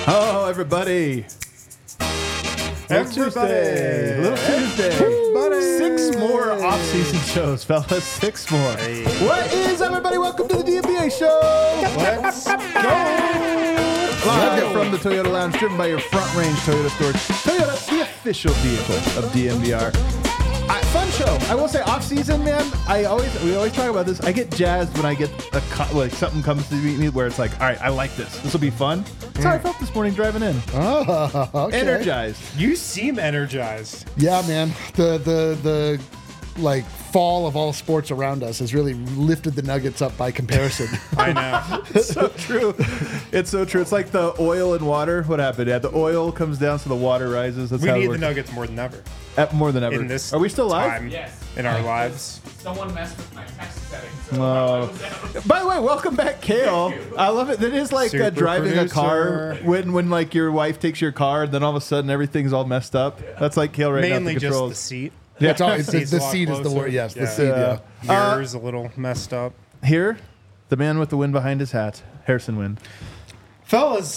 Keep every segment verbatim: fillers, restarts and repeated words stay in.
Hello, everybody. Little Tuesday. Little Tuesday. Buddy. Six more off-season shows, fellas. Six more. Hey. What is, everybody? Welcome to the D M B A show. Let's go. Live from the Toyota Lounge, driven by your Front Range Toyota Storage. Toyota, the official vehicle of D M B R. I, fun show. I will say, off-season, man. I always we always talk about this. I get jazzed when I get a co- like something comes to me where it's like, all right, I like this. This will be fun. That's how I felt this morning driving in. Oh, okay. Energized. You seem energized. Yeah, man. The the the like fall of all sports around us has really lifted the Nuggets up by comparison. I know. It's so true. It's so true. It's like the oil and water. What happened? Yeah, the oil comes down so the water rises. That's We how it need the works. Nuggets more than ever At more than ever. in this Are we still live? time Yes. in our Like, lives. Someone messed with my text settings. So Oh. By the way, welcome back, Kale. I love it. That is like uh, Super driving a car producer. when when like your wife takes your car, and then all of a sudden everything's all messed up. That's like Kale right now. Mainly at the just the controls. seat. Yeah. It's always, the, Seat's the a lot seat is the closer. word. Yes, Yeah. the seat. Yeah. Uh, Yours a little messed up. Here, the man with the wind behind his hat, Harrison Wind. Fellas,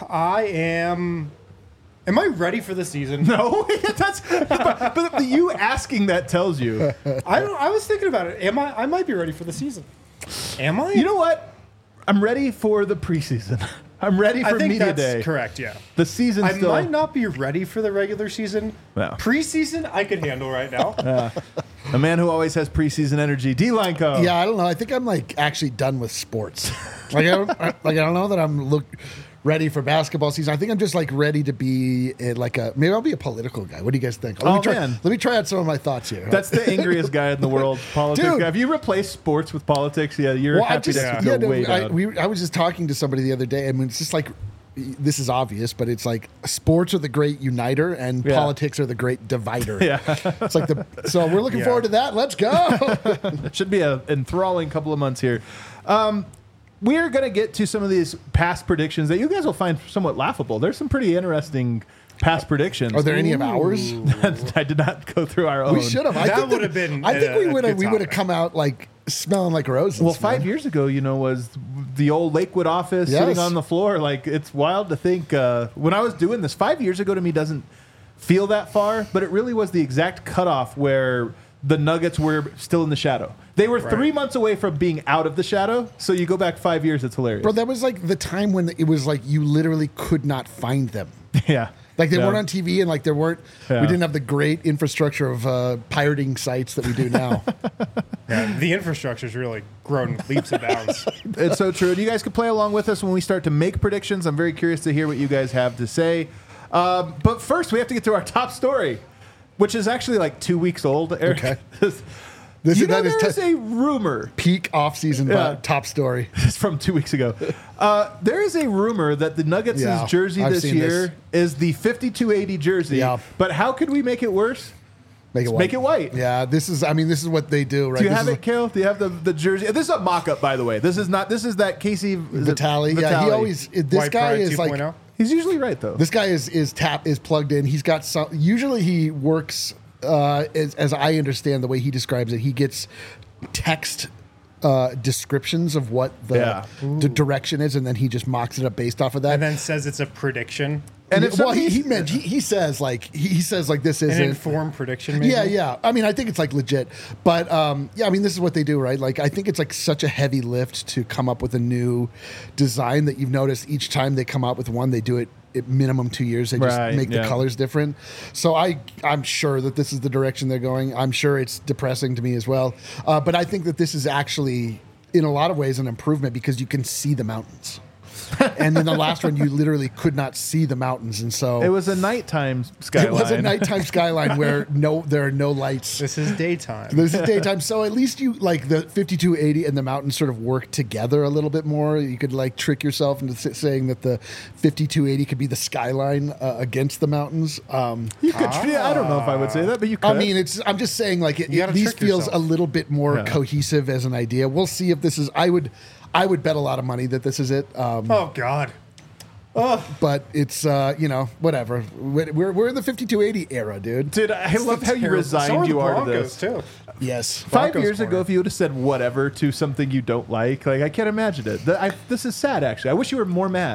I am... Am I ready for the season? No, that's but, but you asking that tells you. I don't. I was thinking about it. Am I? I might be ready for the season. Am I? You know what? I'm ready for the preseason. I'm ready I for think media that's day. correct. Yeah. The season I still. might not be ready for the regular season. No. Preseason, I could handle right now. A man who always has preseason energy, D Line Co. Yeah, I don't know. I think I'm like actually done with sports. Like I don't I, like I don't know that I'm look ready for basketball season. I think I'm just like ready to be a, like a maybe I'll be a political guy. What do you guys think? Let Oh, me try, man. Let me try out some of my thoughts here. That's the angriest guy in the world. Politics Dude. guy. If you replace sports with politics, yeah, you're well, I happy just to yeah, go no, way I, down. we, I was just talking to somebody the other day. I mean, it's just like this is obvious, but it's like sports are the great uniter and Yeah. politics are the great divider. Yeah. It's like the so we're looking Yeah. forward to that. Let's go. It should be an enthralling couple of months here. Um, we're going to get to some of these past predictions that you guys will find somewhat laughable. There's some pretty interesting past predictions. Are there any of ours? I did not go through our own. We should have. I That think that- would've been I think a- we a would have. good We would have topic. come out like smelling like roses. Well, five man. years ago, you know, was the old Lakewood office Yes. sitting on the floor. Like, it's wild to think. Uh, when I was doing this, five years ago to me doesn't feel that far, but it really was the exact cutoff where the Nuggets were still in the shadow. They were three Right. months away from being out of the shadow. So you go back five years, it's hilarious. Bro, that was like the time when it was like you literally could not find them. yeah. Like they Yeah. weren't on T V, and like there weren't. Yeah. We didn't have the great infrastructure of uh, pirating sites that we do now. Yeah, the infrastructure's really grown leaps and bounds. It's so true. And you guys can play along with us when we start to make predictions. I'm very curious to hear what you guys have to say. Um, but first, we have to get to our top story, which is actually like two weeks old, Eric. Okay. This, This you is know, that is there is te- a rumor. peak off-season Yeah. uh, top story. It's from two weeks ago. Uh, there is a rumor that the Nuggets' Yeah, jersey I've this seen year is the fifty-two eighty jersey. Yeah. But how could we make it worse? Make it white. Make it white. Yeah, this is. I mean, this is what they do, right? Do you This have is it, Kale? Do you have the, the jersey? This is a mock-up, by the way. This is not. This is that Casey is it Vitali. Yeah, he Vitali. always. This White guy Pride is like. 2.0? He's usually right though. This guy is is tap is plugged in. He's got some. Usually he works. Uh, as, as I understand the way he describes it, he gets text uh, descriptions of what the, Yeah. the direction is, and then he just mocks it up based off of that. And then says it's a prediction. And if well, he, somebody's- he meant he, he says like he, he says like this An isn't. informed prediction, maybe? Yeah, yeah. I mean, I think it's like legit, but um, yeah. I mean, this is what they do, right? Like, I think it's like such a heavy lift to come up with a new design that you've noticed each time they come out with one, they do it at minimum two years. They just Right, make yeah. the colors different. So I, I'm sure that this is the direction they're going. I'm sure it's depressing to me as well, uh, but I think that this is actually, in a lot of ways, an improvement because you can see the mountains. And in the last one, you literally could not see the mountains, and so It was a nighttime skyline. it was a nighttime skyline where no, there are no lights. This is daytime. This is daytime, so at least you like the fifty-two eighty and the mountains sort of work together a little bit more. You could like trick yourself into s- saying that the fifty-two eighty could be the skyline uh, against the mountains. Um, You could. Yeah, I don't know if I would say that, but you could. I mean, it's. I'm just saying, like, it, You it, gotta these trick feels yourself. a little bit more Yeah. cohesive as an idea. We'll see if this is. I would, I would bet a lot of money that this is it. Um, Oh, God. But it's uh, you know, whatever. We're we're in the fifty-two eighty era, dude. Dude, I love how you Terrible. resigned So are you the are to Broncos, this. too. Yes. Five Broncos years corner. ago, if you would have said whatever to something you don't like, like I can't imagine it. The- I, this is sad, actually. I wish you were more mad.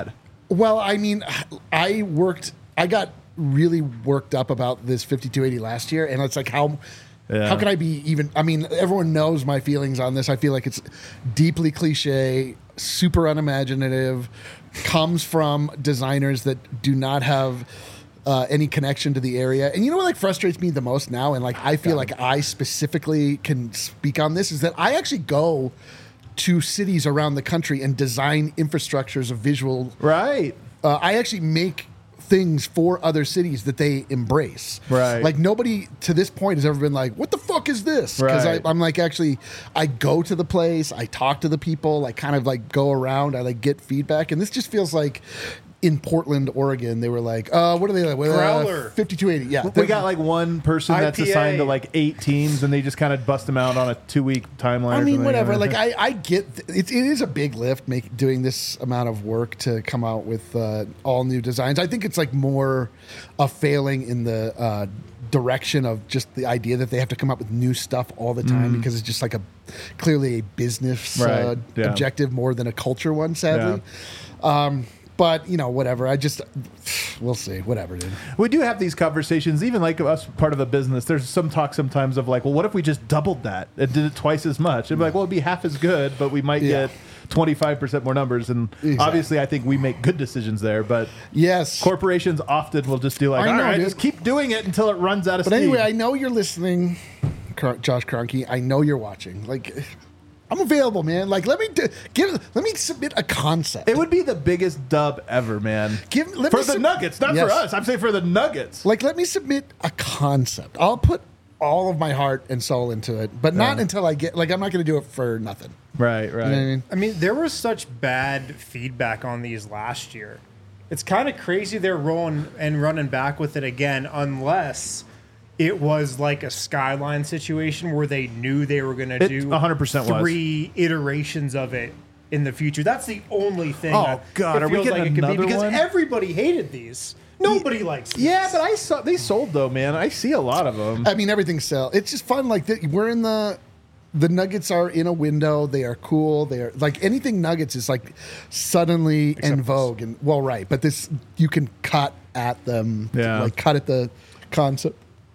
Well, I mean, I worked, I got really worked up about this fifty-two eighty last year, and it's like, how Yeah. how can I be even, I mean, everyone knows my feelings on this. I feel like it's deeply cliche, super unimaginative, comes from designers that do not have uh, any connection to the area. And you know what like frustrates me the most now, and like I feel like I specifically can speak on this, is that I actually go to cities around the country and design infrastructures of visual. Right. Uh, I actually make things for other cities that they embrace. Right. Like nobody to this point has ever been like, what the fuck is this? Because Right. I'm like, actually, I go to the place, I talk to the people, I kind of like go around, I like get feedback. And this just feels like in Portland, Oregon, they were like, uh, what are they like? Well, Growler. Uh, fifty-two eighty. Yeah. We got like one person that's I P A. assigned to like eight teams, and they just kind of bust them out on a two week timeline. I or mean, something. whatever. Like, I, I get th- it, it is a big lift make doing this amount of work to come out with uh, all new designs. I think it's like more a failing in the uh, direction of just the idea that they have to come up with new stuff all the time because it's just like a clearly a business Right, uh, yeah. objective more than a culture one, sadly. Um, but you know, whatever. I just we'll see. Whatever, dude. we do have these conversations, even like us part of a business. There's some talk sometimes of like, well, what if we just doubled that and did it twice as much? It'd be like, well, it'd be half as good, but we might Yeah. get twenty-five percent more numbers. And Exactly. obviously, I think we make good decisions there. But Yes. corporations often will just do like, I all know, right, dude. just keep doing it until it runs out of But steam. anyway, I know you're listening, Cr- Josh Kroenke. I know you're watching. Like, I'm available, man. Like, let me do, give. Let me submit a concept. it would be the biggest dub ever, man. Give- let for me the sub- Nuggets, not Yes. for us. I'm saying for the Nuggets. Like, let me submit a concept. I'll put all of my heart and soul into it, but not Yeah. until I get. Like, I'm not going to do it for nothing. Right, right. You know what I mean? I mean, there was such bad feedback on these last year. It's kind of crazy they're rolling and running back with it again, unless it was like a Skyline situation where they knew they were going to It do one hundred percent was. three iterations of it in the future. That's the only thing. Oh, that God, it are we feels getting like it could be another because one? everybody hated these. Nobody likes these. Yeah, but I saw they sold though, man. I see a lot of them. I mean, everything sell. It's just fun. Like, the, we're in the. The Nuggets are in a window. They are cool. They are like anything Nuggets is like suddenly in vogue and well, right. But this you can cut at them, Yeah. like cut at the concept.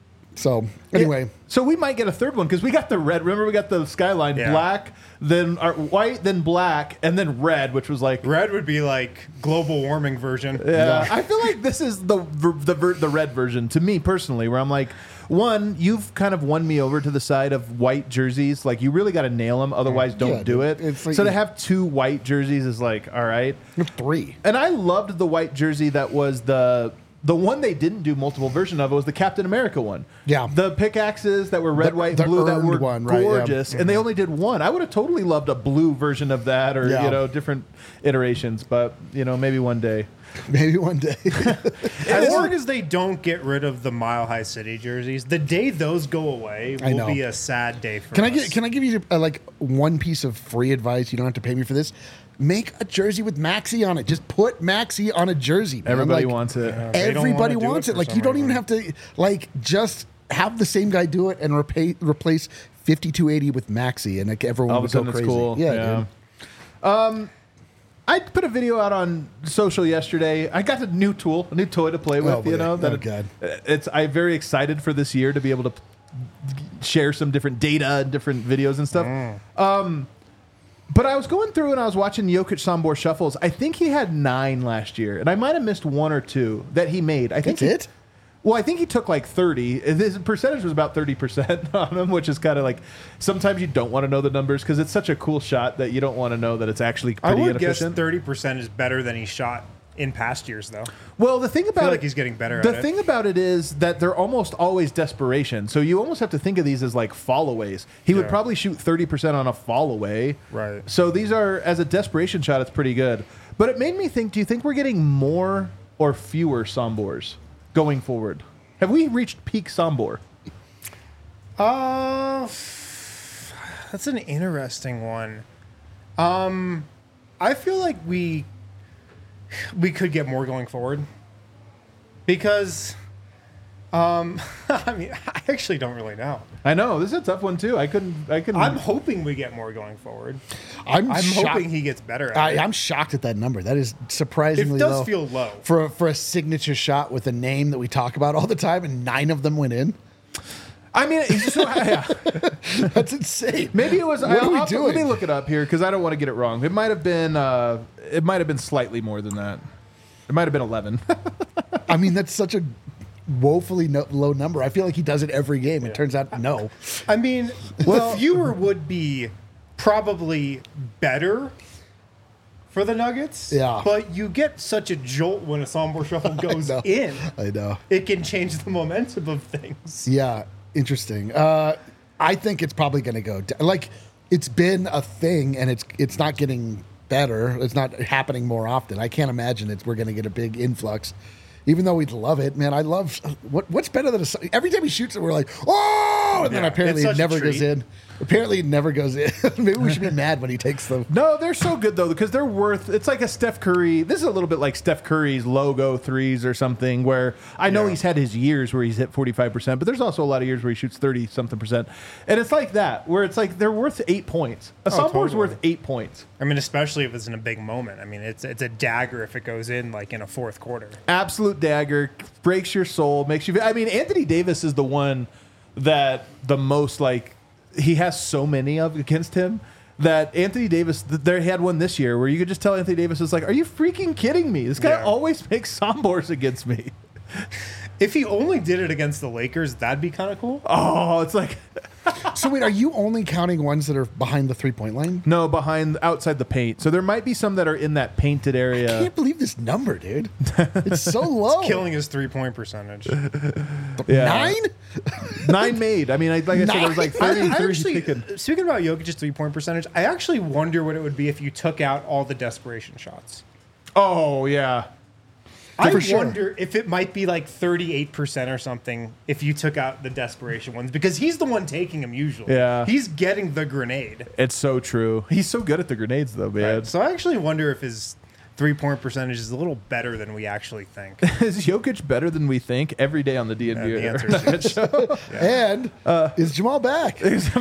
So anyway, So we might get a third one because we got the red. Remember, we got the skyline Yeah. black, then our white, then black, and then red, which was like. Red would be like global warming version. Yeah, I feel like this is the ver- the ver- the red version to me personally, where I'm like, one, you've kind of won me over to the side of white jerseys. Like, you really got to nail them, otherwise, don't Yeah, do dude. it. It's like- so to have two white jerseys is like, all right. you have three. And I loved the white jersey that was the the one they didn't do multiple version of. It was the Captain America one. Yeah. the pickaxes that were red, The- white, the blue that earned were one, right, yeah. gorgeous, and they only did one. I would have totally loved a blue version of that, or Yeah. you know, different iterations. But you know, maybe one day. Maybe one day. As long as they don't get rid of the Mile High City jerseys, the day those go away I will know. be a sad day for Can us. I get? Can I give you uh, like one piece of free advice? You don't have to pay me for this. Make a jersey with Maxi on it. Just put Maxi on a jersey. man. Everybody Like, wants it. They don't Everybody wanna do wants it it. for Like some you don't even reason. have to like just have the same guy do it and repay, replace fifty-two eighty with Maxi, and like everyone All of would a go sudden, it's crazy. cool. Yeah, dude. I put a video out on social yesterday. I got a new tool, a new toy to play with. Oh, you boy. know, that Oh, it- God. it's. I'm very excited for this year to be able to share some different data and different videos and stuff. Um, but I was going through and I was watching Jokic Sombor shuffles. I think he had nine last year, and I might have missed one or two that he made. I think That's he- it? Well, I think he took like thirty. His percentage was about thirty percent on him, which is kind of like sometimes you don't want to know the numbers because it's such a cool shot that you don't want to know that it's actually I pretty would guess inefficient. thirty percent is better than he shot in past years, though. Well, the thing about like it, he's getting better The at it. thing about it is that they're almost always desperation. So you almost have to think of these as like fallaways. He would Yeah. probably shoot thirty percent on a fallaway. Right. So these are, as a desperation shot, it's pretty good. But it made me think, do you think we're getting more or fewer Sombors going forward? Have we reached peak Sombor? Uh, that's an interesting one. Um, I feel like we we could get more going forward because Um, I mean, I actually don't really know. I know this is a tough one too. I couldn't. I couldn't. I'm hoping we get more going forward. I'm, I'm shocked. hoping he gets better at I, it. I'm shocked at that number. That is surprisingly It does low. feel low. for a, for a signature shot with a name that we talk about all the time, and nine of them went in. I mean, it's so, yeah. That's insane. Maybe it was. What I, are we I'll- doing? Let me look it up here because I don't want to get it wrong. It might have been. Uh, it might have been slightly more than that. It might have been eleven. I mean, that's such a woefully no, low number. I feel like he does it every game. It turns out no. I mean, the viewer would be probably better for the Nuggets. Yeah. But you get such a jolt when a Sombor Shuffle goes know. in. I know. It can change the momentum of things. Yeah, interesting. Uh, I think it's probably going to go d- like it's been a thing, and it's it's not getting better. It's not happening more often. I can't imagine it's we're going to get a big influx. Even though we'd love it, man, I love what what's better than a every time he shoots it, we're like, oh, and then Yeah, apparently it's it such a never goes treat. in. Apparently it never goes in. Maybe we should be mad when he takes them. No, they're so good though because they're worth. It's like a Steph Curry. This is a little bit like Steph Curry's logo threes or something. Where I know Yeah. he's had his years where he's hit forty-five percent, but there's also a lot of years where he shoots thirty something percent, and it's like that where it's like they're worth eight points. A Oh, Sombor's totally. worth eight points. I mean, especially if it's in a big moment. I mean, it's it's a dagger if it goes in like in a fourth quarter. Absolute dagger, breaks your soul, makes you. I mean, Anthony Davis is the one that the most like he has so many of against him that Anthony Davis. th- They had one this year where you could just tell Anthony Davis was like, "Are you freaking kidding me? This guy Yeah. always makes Sombors against me." If he only did it against the Lakers, that'd be kind of cool. Oh, it's like So wait, are you only counting ones that are behind the three point line? no behind outside the paint. So there might be some that are in that painted I area. can't believe this number, dude. It's so low. Killing his three point percentage. Yeah. Nine? Nine made. I mean, I, like I said, there was like I, I thirty-three actually, taken. speaking about Jokic's three point percentage, I actually wonder what it would be if you took out all the desperation shots. Oh yeah. I For sure. wonder if it might be like thirty-eight percent or something if you took out the desperation ones because he's the one taking them usually. Yeah. He's getting the grenade. It's so true. He's so good at the grenades though, man. So I actually wonder if his three point percentage is a little better than we actually think. Is Jokic better than we think every day on the D N B? Uh, the answer is yes. And is Jamal back?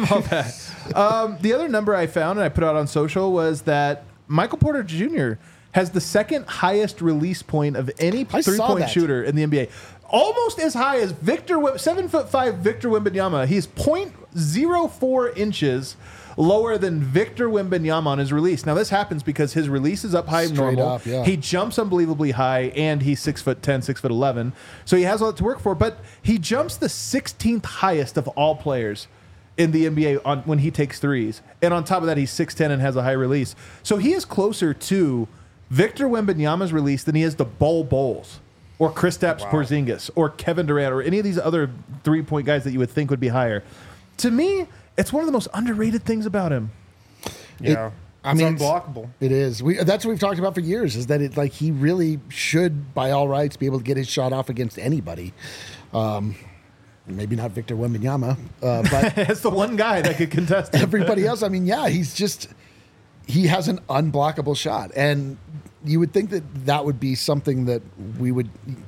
um, the other number I found and I put out on social was that Michael Porter Junior has the second highest release point of any I saw three-point that. shooter in the N B A. Almost as high as Victor, Wim- seven foot five Victor Wembanyama. He's point zero four inches lower than Victor Wembanyama on his release. Now this happens because his release is up high and Straight normal. up, yeah. He jumps unbelievably high, and he's six foot ten, six foot eleven. So he has a lot to work for. But he jumps the sixteenth highest of all players in the N B A on when he takes threes. And on top of that, he's six ten and has a high release. So he is closer to Victor Wembanyama's release than he is to Bol Bowles or Kristaps Wow. Porzingis or Kevin Durant or any of these other three-point guys that you would think would be higher. To me, it's one of the most underrated things about him. Yeah. I It's mean, it's- unblockable. It is. We that's what we've talked about for years. Is that it? Like he really should, by all rights, be able to get his shot off against anybody. Um, maybe not Victor Wembanyama, uh, but It's the one guy that could contest him. everybody else. I mean, yeah, he's just he has an unblockable shot, and you would think that that would be something that we would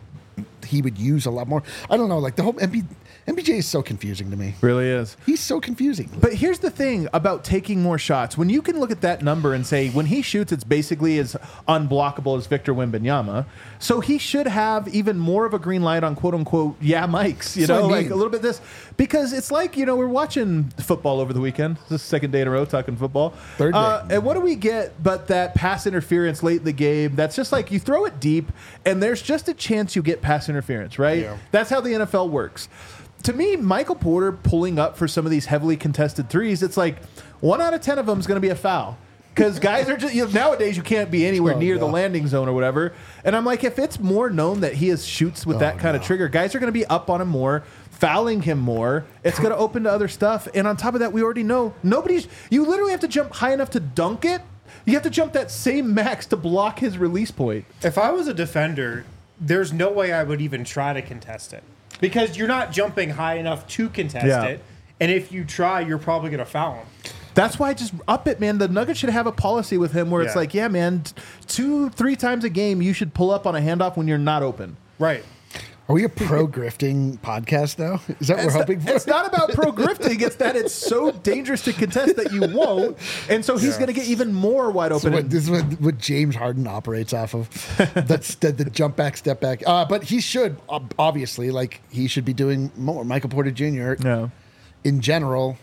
he would use a lot more. I don't know. Like the whole M B, M B J is so confusing to me. Really is. He's so confusing. But here's the thing about taking more shots. When you can look at that number and say, when he shoots, it's basically as unblockable as Victor Wembanyama. So he should have even more of a green light on quote unquote, yeah, Mikes, you That's know, what I like mean. a little bit this. Because it's like, you know, we're watching football over the weekend. This is the second day in a row talking football. Third day. Uh, and what do we get but that pass interference late in the game? That's just like you throw it deep and there's just a chance you get pass interference, right? Yeah. That's how the N F L works. To me, Michael Porter pulling up for some of these heavily contested threes, it's like one out of ten of them is going to be a foul. Because guys are just, you know, nowadays you can't be anywhere Oh, near no. the landing zone or whatever. And I'm like, if it's more known that he is shoots with that kind of trigger, guys are going to be up on him more, fouling him more. It's going to open to other stuff. And on top of that, we already know nobody's, you literally have to jump high enough to dunk it. You have to jump that same max to block his release point. If I was a defender, there's no way I would even try to contest it. Because you're not jumping high enough to contest Yeah. it. And if you try, you're probably going to foul him. That's why I just up it, man. The Nuggets should have a policy with him where it's Yeah. like, yeah, man, t- two, three times a game, you should pull up on a handoff when you're not open. Right. Are we a pro grifting podcast now? Is that what we're It's, hoping not, for? it's not about pro grifting. It's that it's so dangerous to contest that you won't, and so he's Yeah. going to get even more wide So open. what, and- this is what, what James Harden operates off of. That's the, the jump back, step back. Uh, but he should, ob- obviously, like, he should be doing more. Michael Porter Junior, no. in general,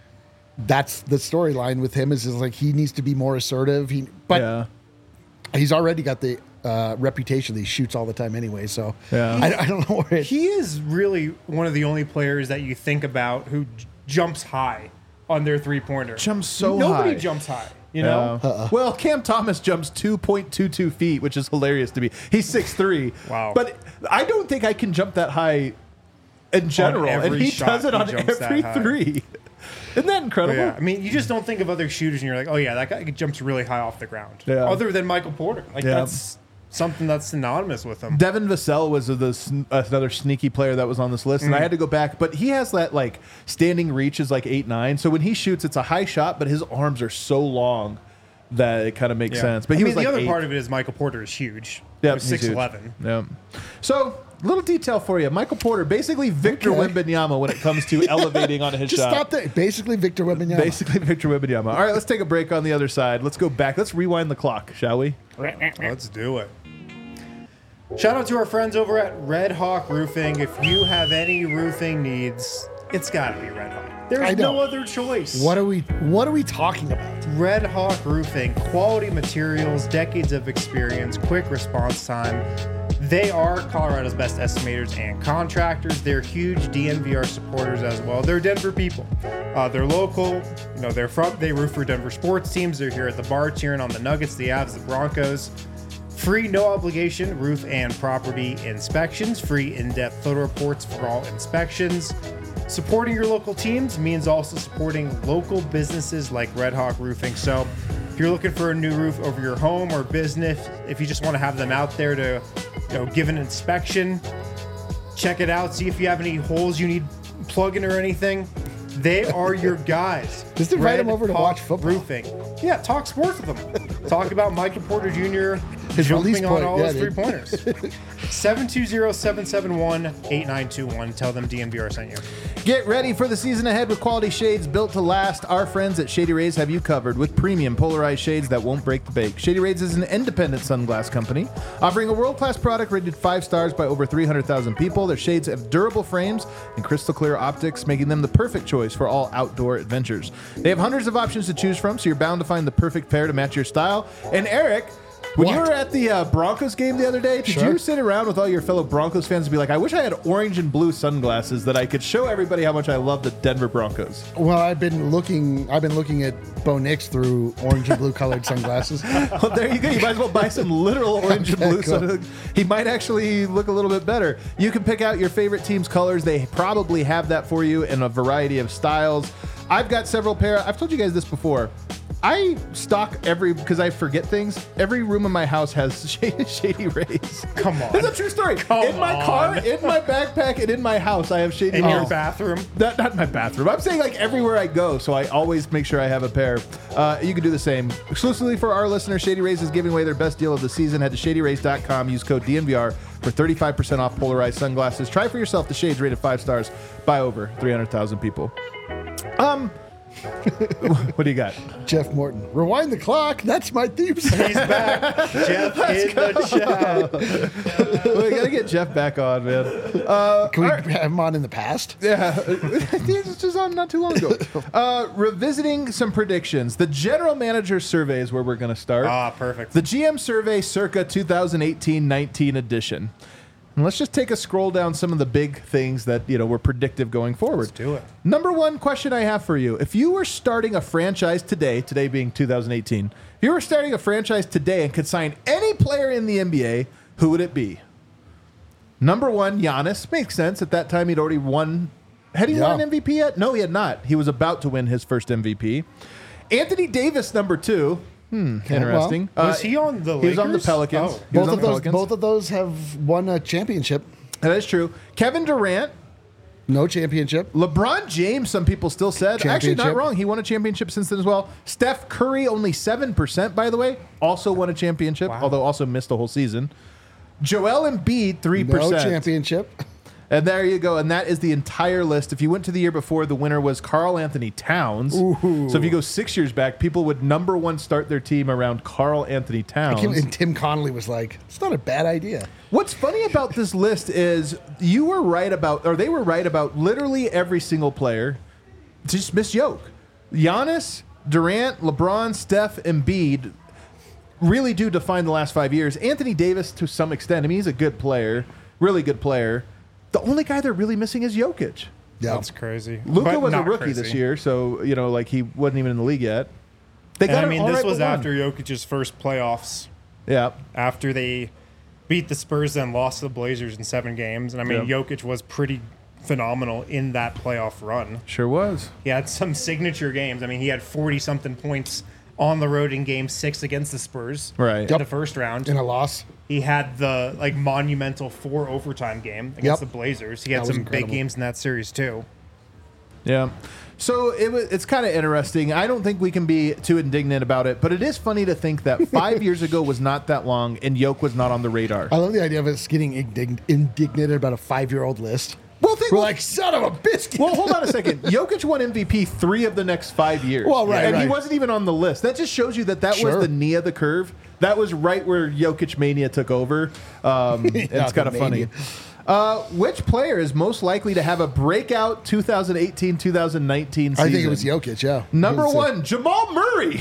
that's the storyline with him is, is like he needs to be more assertive. He, But yeah. he's already got the uh, reputation that he shoots all the time anyway. So Yeah. I, I don't know where it, He is really one of the only players that you think about who j- jumps high on their three pointer. Jumps so Nobody high. jumps high. You know. Uh, Well, Cam Thomas jumps two point two two feet, which is hilarious to me. He's six three. Wow. But I don't think I can jump that high in general. And every he shot does it he on jumps that every high. three. Isn't that incredible? Yeah, I mean, you just don't think of other shooters, and you're like, oh yeah, that guy jumps really high off the ground. Yeah. Other than Michael Porter, like Yeah. that's something that's synonymous with him. Devin Vassell was the, sn- another sneaky player that was on this list, and Mm. I had to go back. But he has that like standing reach is like eight nine. So when he shoots, it's a high shot, but his arms are so long that it kind of makes Yeah. sense. But I he mean, was the like other eight. part of it is Michael Porter is huge. Yep, He's he's six huge. eleven. Yep. So, little detail for you. Michael Porter, basically Victor Okay. Wembanyama when it comes to elevating on his just shot. stop there. Basically, Victor Wembanyama. Basically Victor Wembanyama. All right, let's take a break on the other side. Let's go back. Let's rewind the clock, shall we? Let's do it. Shout out to our friends over at Red Hawk Roofing. If you have any roofing needs, it's got to be Red Hawk. I There's know. no other choice. What are we? What are we talking about? Red Hawk Roofing, quality materials, decades of experience, quick response time. They are Colorado's best estimators and contractors. They're huge D N V R supporters as well. They're Denver people. Uh, they're local. You know, they're from. They roof for Denver sports teams. They're here at the bar cheering on the Nuggets, the Avs, the Broncos. Free, no obligation roof and property inspections. Free in-depth photo reports for all inspections. Supporting your local teams means also supporting local businesses like Red Hawk Roofing. So if you're looking for a new roof over your home or business, if you just want to have them out there to, you know, give an inspection, check it out, see if you have any holes you need plugging or anything, they are your guys. Just invite Red them over to Hawk watch football. Roofing. Yeah, talk sports with them. Talk about Michael Porter Junior His release jumping on point, all yeah, his three dude. pointers. seven two zero, seven seven one, eight nine two one. Tell them D N V R sent you. Get ready for the season ahead with quality shades built to last. Our friends at Shady Rays have you covered with premium polarized shades that won't break the bank. Shady Rays is an independent sunglass company offering a world-class product rated five stars by over three hundred thousand people. Their shades have durable frames and crystal clear optics, making them the perfect choice for all outdoor adventures. They have hundreds of options to choose from, so you're bound to find the perfect pair to match your style. And Eric, when you What? were at the uh, Broncos game the other day, did Sure. you sit around with all your fellow Broncos fans and be like, I wish I had orange and blue sunglasses that I could show everybody how much I love the Denver Broncos? Well, I've been looking. I've been looking at Bo Nix through orange and blue colored sunglasses. Well, there you go. You might as well buy some literal orange and blue. Cool. So he might actually look a little bit better. You can pick out your favorite team's colors. They probably have that for you in a variety of styles. I've got several pair. I've told you guys this before. I stock every, because I forget things, every room in my house has Shady, Shady Rays. Come on. This is a true story. Come in my car, on. in my backpack, and in my house, I have Shady In Rays. your bathroom. Not, not my bathroom. I'm saying like everywhere I go, so I always make sure I have a pair. Uh, you can do the same. Exclusively for our listeners, Shady Rays is giving away their best deal of the season. Head to shady rays dot com. Use code D N V R for thirty-five percent off polarized sunglasses. Try for yourself the shades rated five stars by over three hundred thousand people. Um, what do you got? Jeff Morton, rewind the clock. That's my theme song. He's back. Jeff in the chat. We gotta get Jeff back on, man. Uh, Can we all right. have him on in the past? Yeah, this was just on not too long ago. Uh, revisiting some predictions. The general manager survey is where we're going to start. Ah, perfect. The G M survey circa twenty eighteen nineteen edition. And let's just take a scroll down some of the big things that, you know, were predictive going forward. Let's do it. Number one question I have for you. If you were starting a franchise today, today being two thousand eighteen, if you were starting a franchise today and could sign any player in the N B A, who would it be? Number one, Giannis. Makes sense. At that time, he'd already won. Had he Yeah. won an M V P yet? No, he had not. He was about to win his first M V P. Anthony Davis, number two. Hmm, interesting. Was he on the He was on the Lakers? Pelicans. Oh. He was Both on of the those. Pelicans. Both of those have won a championship. That is true. Kevin Durant. No championship. LeBron James, some people still said. Actually, not Championship. wrong. He won a championship since then as well. Steph Curry, only seven percent, by the way, also won a championship, Wow. although also missed the whole season. Joel Embiid, three percent. No championship. And there you go. And that is the entire list. If you went to the year before, the winner was Karl Anthony Towns. Ooh. So if you go six years back, people would number one start their team around Karl Anthony Towns. And Tim Connolly was like, it's not a bad idea. What's funny about this list is you were right about, or they were right about literally every single player. Just miss Jokic. Giannis, Durant, LeBron, Steph, Embiid really do define the last five years. Anthony Davis, to some extent, I mean, he's a good player, really good player. The only guy they're really missing is Jokic. Yeah. That's crazy. Luka But was a not rookie crazy. this year, so, you know, like he wasn't even in the league yet. They And got I it mean, all this right was but one. after Jokic's first playoffs. Yeah. After they beat the Spurs and lost to the Blazers in seven games. And I mean, Yeah. Jokic was pretty phenomenal in that playoff run. Sure was. He had some signature games. I mean, he had forty-something points on the road in game six against the Spurs. Right. In the first round. In a loss. He had the like monumental four overtime game against Yep. the Blazers. He had That was some big incredible. games in that series too. Yeah. So it was, it's kind of interesting. I don't think we can be too indignant about it, but it is funny to think that five years ago was not that long and Yoke was not on the radar. I love the idea of us getting indig- indignant about a five-year-old list. Well, think, We're well, like, son of a biscuit. well, hold on a second. Jokic won M V P three of the next five years. Well, right, And he right. wasn't even on the list. That just shows you that that Sure. was the knee of the curve. That was right where Jokic mania took over. Um, and it's the kind of funny. mania. Uh, which player is most likely to have a breakout twenty eighteen twenty nineteen season? I think it was Jokic, yeah. Number It was, uh, one, Jamal Murray.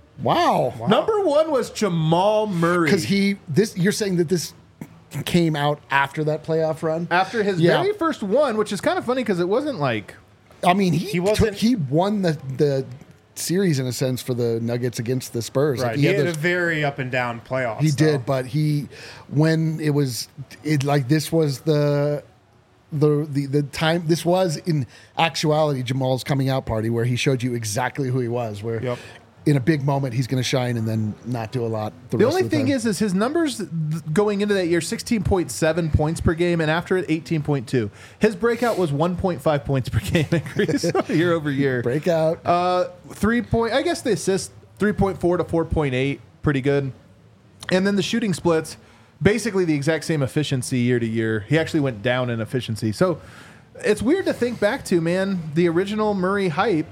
Wow. Number one was Jamal Murray. Because he, this, you're saying that this came out after that playoff run? After his Yeah. very first one, which is kind of funny because it wasn't like I mean, he He wasn't- took, he won the the series in a sense for the Nuggets against the Spurs. Like, Right. He, had, those- a very up and down playoffs. he though. did, but he when it was it like this was the the the the time this was in actuality Jamal's coming out party where he showed you exactly who he was. Where Yep. in a big moment he's going to shine and then not do a lot. The, the rest only of the thing time. is is his numbers th- going into that year sixteen point seven points per game and after it eighteen point two. His breakout was one point five points per game increase year over year. breakout. Uh, three point. I guess the assist three point four to four point eight, pretty good. And then the shooting splits, basically the exact same efficiency year to year. He actually went down in efficiency. So it's weird to think back to, man. The original Murray hype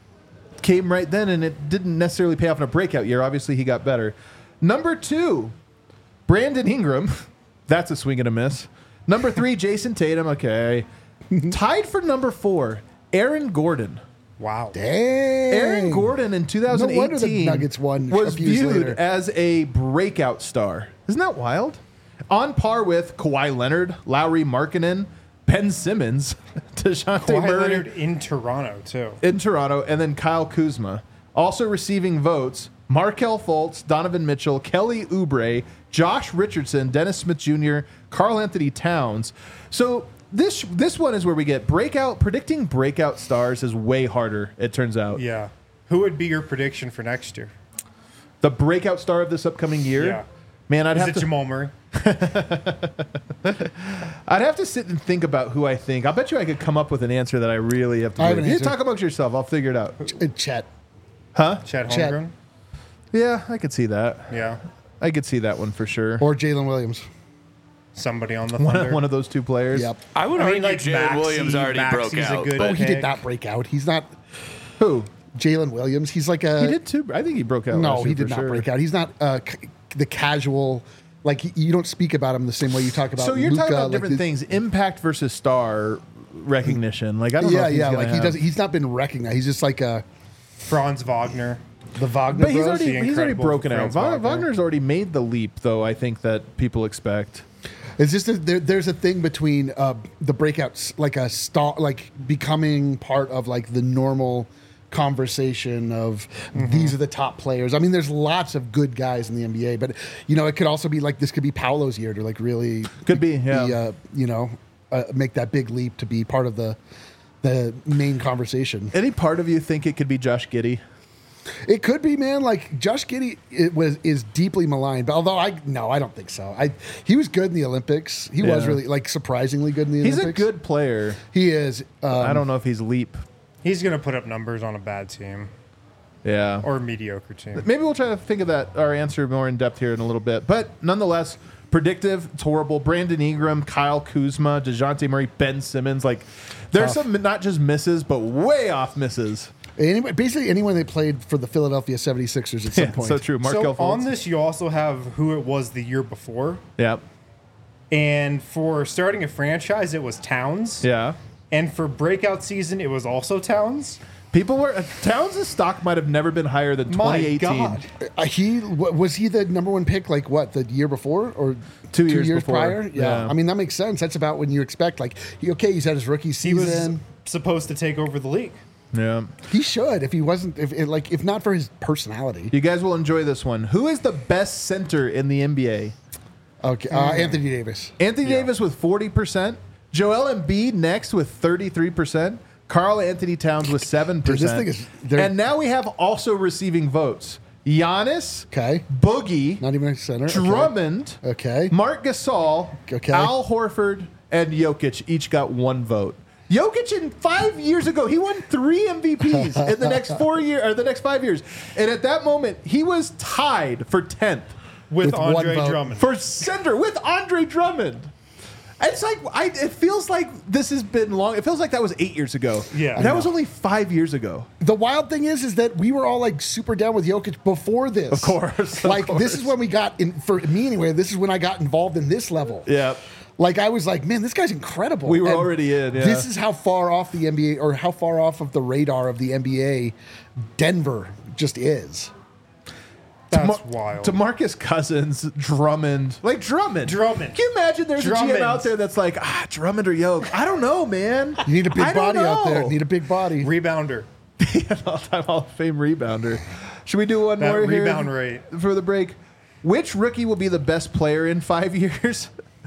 came right then, and it didn't necessarily pay off in a breakout year. Obviously, he got better. Number two, Brandon Ingram. That's a swing and a miss. Number three, Jason Tatum. Okay. Tied for number four, Aaron Gordon. Wow. Dang. Aaron Gordon in twenty eighteen No wonder the Nuggets won a was few years viewed later. as a breakout star. Isn't that wild? On par with Kawhi Leonard, Lowry Markkanen, Ben Simmons, DeJounte Kawhi Murray Leonard in Toronto too. in Toronto, and then Kyle Kuzma. Also receiving votes, Markel Fultz, Donovan Mitchell, Kelly Oubre, Josh Richardson, Dennis Smith Junior, Karl Anthony Towns. So this this one is where we get breakout. Predicting breakout stars is way harder, it turns out. Yeah. Who would be your prediction for next year? The breakout star of this upcoming year? Yeah. Man, I'd Is have it to Jamal Murray? I'd have to sit and think about who I think. I'll bet you I could come up with an answer that I really have to I do. have an You answer. talk amongst yourself. I'll figure it out. Uh, Chet. Huh? Chad Chet. Holmgren? Yeah, I could see that. Yeah. I could see that one for sure. Or Jalen Williams. Somebody on the One Thunder. of, one of those two players. Yep. I would I argue mean, like Jalen Maxey- Williams already Maxey's broke a out. good- but- Oh, he pick. did not break out. He's not Who? Jalen Williams. He's like a He did too. I think he broke out. No, last he year did for not sure. break out. He's not uh, c- the casual. Like he- you don't speak about him the same way you talk about. So you're talking Luka, about like different the- things: impact versus star recognition. Like I don't know. Yeah, If he's yeah. gonna Like he have- doesn't. He's not been recognized. He's just like a Franz Wagner. the Wagner But he's Bros. already the he's already incredible broken out. Franz Va- Wagner. Wagner's already made the leap, though. I think that people expect. It's just a, there, there's a thing between uh, the breakouts, like a star, like becoming part of like the normal conversation of Mm-hmm. these are the top players. I mean, there's lots of good guys in the N B A, but you know, it could also be like this could be Paolo's year to like really Could be, yeah. uh, you know, uh, make that big leap to be part of the the main conversation. Any part of you think it could be Josh Giddey? It could be, man. Like Josh Giddey, it was is deeply maligned. But although I no, I don't think so. I he was good in the Olympics. He was Yeah. really like surprisingly good in the He's a Olympics. good player. He is. Um, I don't know if he's leap. He's going to put up numbers on a bad team Yeah. or a mediocre team. Maybe we'll try to think of that our answer more in depth here in a little bit. But nonetheless, Predictive, it's horrible. Brandon Ingram, Kyle Kuzma, DeJounte Murray, Ben Simmons. Like, there's Tough. some not just misses, but way off misses. Anyway, basically anyone that played for the Philadelphia seventy-sixers at some Yeah, point. so true. Markel So on Fultz. this, you also have who it was the year before. Yep. And for starting a franchise, it was Towns. Yeah. And for breakout season, it was also Towns. People were uh, Towns' stock might have never been higher than My twenty eighteen. God. Uh, he wa- was he the number one pick like what the year before or Two years before. prior? Yeah. Yeah. I mean that makes sense. That's about when you expect like he, okay, he's had his rookie He was season. supposed to take over the league. Yeah. He should if he wasn't if it, like if not for his personality. You guys will enjoy this one. Who is the best center in the N B A? Okay, uh, Anthony Davis. Anthony Davis with forty percent. Joel Embiid next with thirty-three percent. Carl Anthony Towns with seven percent. Dude, this thing is- they're- and now we have also receiving votes. Giannis, Okay, Boogie, not even a center. Okay. Drummond, Okay. Mark Gasol, Okay. Al Horford, and Jokic each got one vote. Jokic in five years ago, he won three M V Ps in the next four year or the next five years. And at that moment, he was tied for tenth With, With one Andre vote. Drummond. for center with Andre Drummond. It's like I, it feels like this has been long. It feels like that was eight years ago. Yeah. that I was know. only five years ago. The wild thing is, is that we were all like super down with Jokic before this. Of course, of like this course. is when we got in for me anyway. This is when I got involved in this level. Yeah. Like I was like, man, this guy's incredible. We were And already in, yeah. This is how far off the N B A or how far off of the radar of the N B A Denver just is. That's To wild. DeMarcus Cousins, Drummond, like Drummond. Drummond. Can you imagine there's a G M Drummond. out there that's like, ah, Drummond or Yoke? I don't know, man. You need a big I don't body out there. know. Need a big body. Rebounder. An all-time Hall of Fame rebounder. Should we do one That more here rebound rate. for the break? Which rookie will be the best player in five years?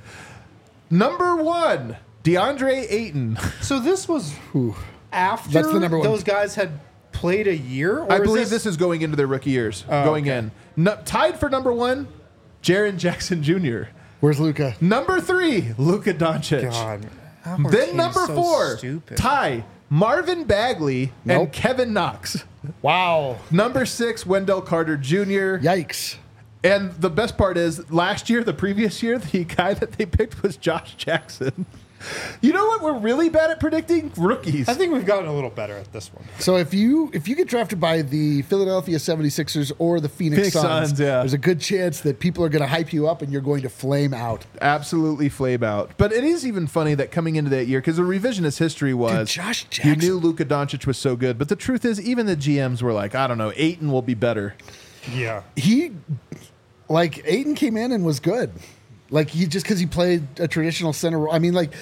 Number one, DeAndre Ayton. So this was after That's the number one. those guys had played a year? Or I is believe this, is going into their rookie years. going okay. in. No, tied for number one, Jaren Jackson Junior Where's Luca? Number three, Luka Doncic. God. Our Then team's number so four, stupid. tie Marvin Bagley Nope. and Kevin Knox. Wow. Number six, Wendell Carter Junior Yikes. And the best part is, last year, the previous year, the guy that they picked was Josh Jackson. You know what we're really bad at predicting? Rookies. I think we've gotten a little better at this one. So if you if you get drafted by the Philadelphia seventy-sixers or the Phoenix, Phoenix Suns, Suns, yeah. there's a good chance that people are going to hype you up and you're going to flame out. Absolutely flame out. But it is even funny that coming into that year, because the revisionist history was Dude, Josh you Jackson. knew Luka Doncic was so good. But the truth is, even the G Ms were like, I don't know, Ayton will be better. Yeah. He, like, Aiden came in and was good. Like, he just because he played a traditional center role. I mean, like,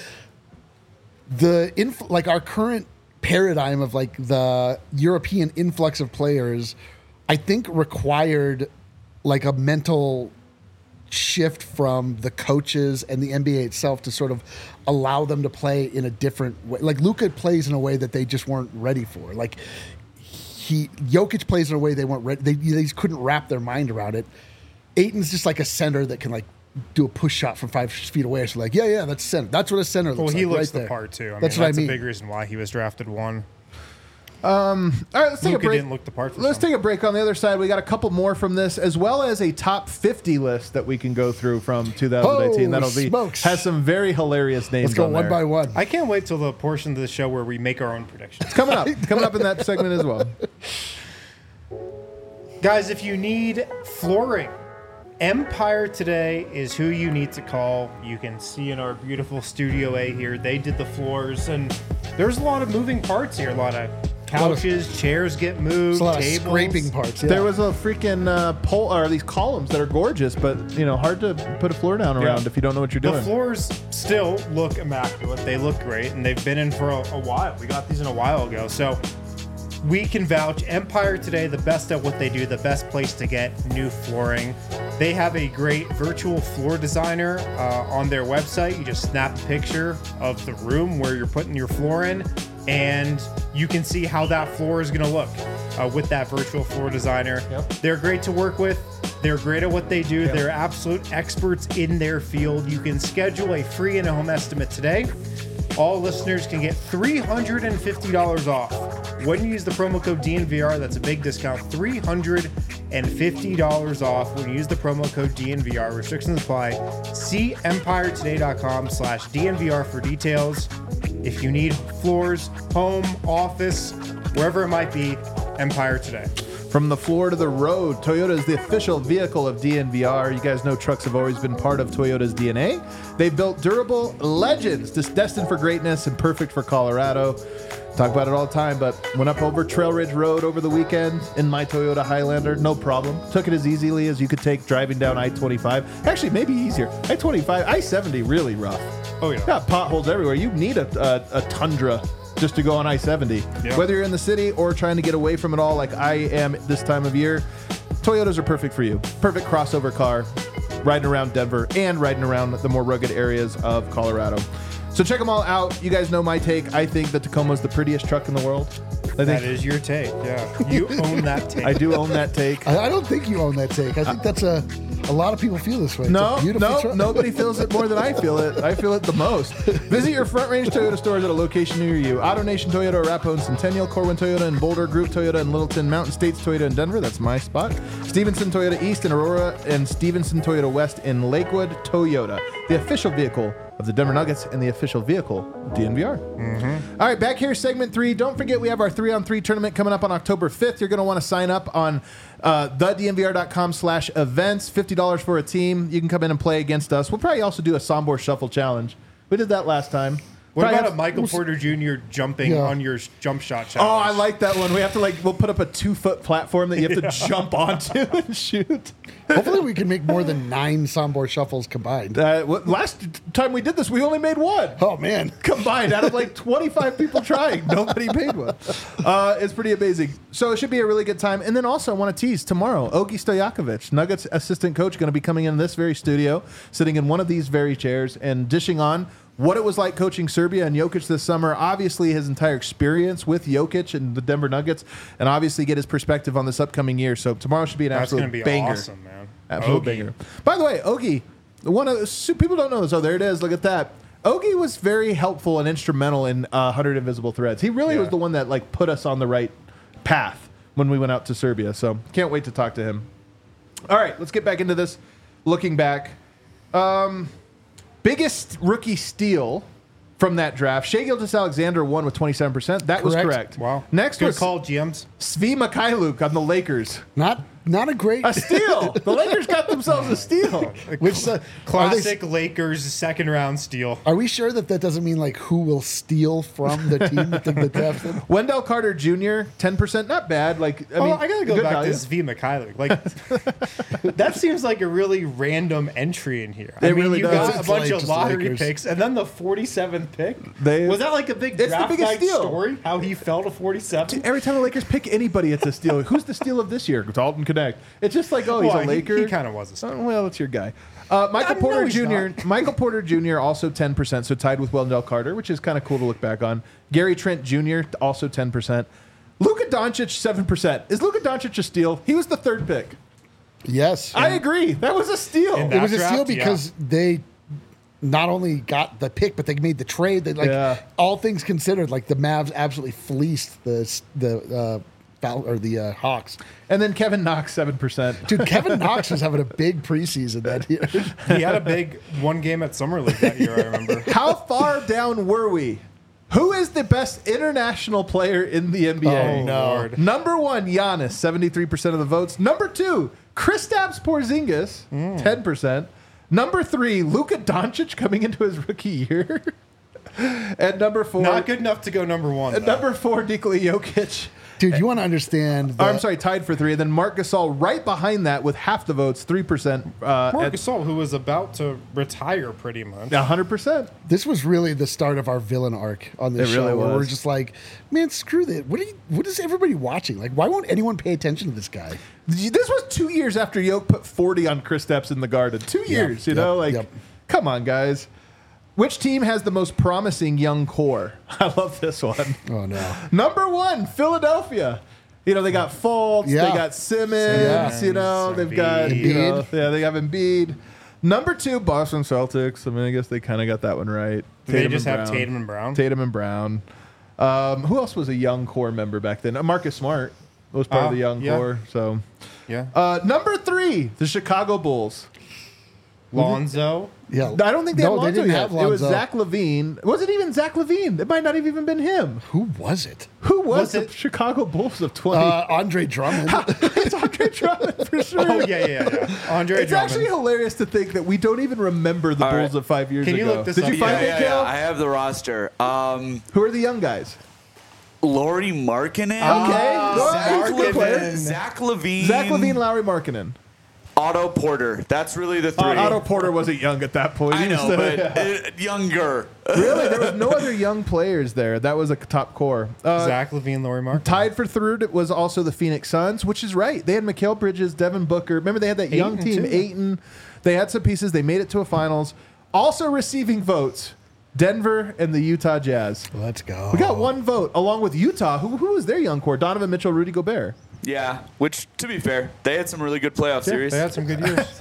the inf- like our current paradigm of like the European influx of players, I think required like a mental shift from the coaches and the N B A itself to sort of allow them to play in a different way. Like Luka plays in a way that they just weren't ready for. Like he Jokic plays in a way they weren't ready. They, they just couldn't wrap their mind around it. Aiton's just like a center that can like do a push shot from five feet away. So like, yeah, yeah, that's center. That's what a center looks Well, like. he looks right the there. part too. I that's mean, what that's I mean. a big reason why he was drafted one. All right, let's take Luka a break. didn't look the part for Let's some. take a break. On the other side, we got a couple more from this, as well as a top fifty list that we can go through from two thousand eighteen. Oh, That'll be smokes. has some very hilarious names. Let's go on one there. by one. I can't wait till the portion of the show where we make our own predictions. Coming up, coming up in that segment as well. Guys, if you need flooring, Empire Today is who you need to call. You can see in our beautiful Studio A here, they did the floors, and there's a lot of moving parts here. A lot of couches, chairs get moved, There's a lot tables. of scraping parts. Yeah. There was a freaking uh, pole or these columns that are gorgeous, but you know, hard to put a floor down around Yeah. if you don't know what you're The doing. floors still look immaculate. They look great, and they've been in for a, a while. We got these in a while ago, so we can vouch. Empire Today, the best at what they do, the best place to get new flooring. They have a great virtual floor designer uh, on their website. You just snap a picture of the room where you're putting your floor in, and you can see how that floor is going to look uh, with that virtual floor designer. Yep. They're great to work with. They're great at what they do. They're absolute experts in their field. You can schedule a free in-home estimate today. All listeners can get three hundred fifty dollars off when you use the promo code D N V R. That's a big discount, three hundred and fifty dollars off when you use the promo code D N V R. Restrictions apply. See empire today dot com slash D N V R for details. If you need floors, home, office, wherever it might be, Empire Today. From the floor to the road, Toyota is the official vehicle of D N V R. You guys know trucks have always been part of Toyota's D N A. They've built durable legends, just destined for greatness and perfect for Colorado. Talk about it all the time, but went up over Trail Ridge Road over the weekend in my Toyota Highlander, no problem. Took it as easily as you could take driving down I twenty-five. Actually, maybe easier. I twenty-five, I seventy, really rough. Oh, yeah. Got potholes everywhere. You need a, a, a Tundra just to go on I seventy. Yeah. Whether you're in the city or trying to get away from it all like I am this time of year, Toyotas are perfect for you. Perfect crossover car, riding around Denver and riding around the more rugged areas of Colorado. So check them all out. You guys know my take. I think the Tacoma's the prettiest truck in the world. I think That is your take, yeah. You own that take. I do own that take. I, I don't think you own that take. I think that's a a lot of people feel this way. It's No, a beautiful no, truck. nobody feels it more than I feel it. I feel it the most. Visit your Front Range Toyota stores at a location near you. AutoNation Toyota, Arapahoe and Centennial, Corwin Toyota and Boulder, Group Toyota and Littleton, Mountain States Toyota in Denver. That's my spot. Stevenson Toyota East in Aurora and Stevenson Toyota West in Lakewood. Toyota, the official vehicle of the Denver Nuggets and the official vehicle of D N V R. Mm-hmm. All right, back here, segment three. Don't forget we have our three-on-three tournament coming up on October fifth. You're going to want to sign up on uh, the D N V R dot com slash events. fifty dollars for a team. You can come in and play against us. We'll probably also do a Sombor Shuffle Challenge. We did that last time. What Probably about have- a Michael Porter Junior jumping Yeah. on your jump shot Oh, challenge? I like that one. We have to like, we'll put up a two-foot platform that you have to jump onto and shoot. Hopefully we can make more than nine Sombor shuffles combined. Uh, what, last time we did this, we only made one. Oh, man. Combined out of like twenty-five people trying. Nobody made one. Uh, it's pretty amazing. So it should be a really good time. And then also I want to tease tomorrow, Ogi Stojakovic, Nuggets assistant coach, going to be coming in this very studio, sitting in one of these very chairs and dishing on what it was like coaching Serbia and Jokic this summer. Obviously his entire experience with Jokic and the Denver Nuggets, and obviously get his perspective on this upcoming year. So tomorrow should be an That's absolute going to be banger. awesome, man. Absolute Ogie. banger. By the way, Ogie, one of so people don't know this. Oh, there it is. Look at that. Ogie was very helpful and instrumental in uh, one hundred Invisible Threads. He really Yeah. was the one that like put us on the right path when we went out to Serbia. So can't wait to talk to him. All right, let's get back into this. Looking back, um, biggest rookie steal from that draft. Shai Gilgeous-Alexander won with twenty-seven percent. That was Correct. correct. Wow. Next Good was call, G Ms. Svi Mikhailuk on the Lakers. Not not a great... A steal. The Lakers got themselves a steal. Which, uh, are, they, Classic Lakers second round steal. are we sure that that doesn't mean like who will steal from the team that they drafted? Wendell Carter Junior, ten percent, not bad. Like, I I mean, I gotta go good back value. to Svi Mikhailuk. Like, that seems like a really random entry in here. I It mean, really you does. got a It's bunch like of just the lottery Lakers. picks, and then the forty-seventh pick. They- was that like a big It's the draft biggest night steal. story? How he fell to forty-seven? Every time the Lakers pick anybody, it's a steal. Who's the steal of this year? Dalton Connect. It's just like, oh, he's Well, a he- Laker. he kinda was a steal. Oh, well, it's your guy. Uh, Michael No, Porter no, he's Junior not. Michael Porter Junior also ten percent, so tied with Wendell Carter, which is kind of cool to look back on. Gary Trent Junior also ten percent. Luka Doncic seven percent. Is Luka Doncic a steal? He was the third pick. Yes. I agree. That was a steal. In It was a That steal draft, because they not only got the pick, but they made the trade. They like Yeah. all things considered, like the Mavs absolutely fleeced the the uh, Fal- or the uh, Hawks. And then Kevin Knox seven percent. Dude, Kevin Knox was having a big preseason that year. He had a big one game at Summer League that year, I remember. How far down were we? Who is the best international player in the N B A? Oh, no. Lord. Number one, Giannis, seventy-three percent of the votes. Number two, Kristaps Porzingis, Mm. ten percent. Number three, Luka Doncic coming into his rookie year. And number four, Not good enough to go number one. and though. number four, Nikola Jokic. Dude, you want to understand Oh, that I'm sorry, tied for three. And then Marc Gasol right behind that with half the votes, three percent. Uh, Marc at Gasol, who was about to retire pretty much. one hundred percent. this was really the start of our villain arc on this It show. really Where we're was. just like, man, screw that. What are you, what is everybody watching? Like, why won't anyone pay attention to this guy? This was two years after Yoke put forty on Kristaps in the Garden. Two years, you yep, know? Like, yep. come on, guys. Which team has the most promising young core? I love this one. Oh no. Number one, Philadelphia. You know, they got Fultz, Yeah. they got Simmons, Yeah. you know, they've got, you know, Embiid. yeah, they have Embiid. Number two, Boston Celtics. I mean, I guess they kind of got that one right. Do they Tatum just and have Brown. Tatum and Brown? Tatum and Brown. Um, who else was a young core member back then? Uh, Marcus Smart. was part Uh, of the young yeah. core. So, Yeah. uh, number three, the Chicago Bulls. Lonzo. Yeah. I don't think they no, had Lonzo they didn't yet. have It was Lonzo. Zach LaVine. Was it even Zach LaVine? It might not have even been him. Who was it? Who was, Was the it- Chicago Bulls of twenty? Uh, Andre Drummond. it's Andre Drummond for sure. Oh yeah, yeah, yeah. Andre It's Drummond. actually hilarious to think that we don't even remember the All Bulls right. of five years Can you ago. look this Did up? you find yeah, it, yeah, Kel? yeah. I have the roster. Um, Who are the young guys? Laurie Markkinen. Okay. Well, Zach, he's a good player. Levine, Zach Levine. Zach LaVine, Lowry Markkinen. Otto Porter. That's really the three. Uh, Otto Porter wasn't young at that point. I He was know, still- but yeah. uh, younger. Really, there was no other young players there. That was a top core. Uh, Zach LaVine, Laurie Mark. Tied for third it was also the Phoenix Suns, which is right. They had Mikal Bridges, Devin Booker. Remember, they had that young Ayton, team, too. Ayton. They had some pieces. They made it to a finals. Also receiving votes, Denver and the Utah Jazz. Let's go. We got one vote, along with Utah. Who, who was their young core? Donovan Mitchell, Rudy Gobert. Yeah, which, to be fair, they had some really good playoff series. They had some good years.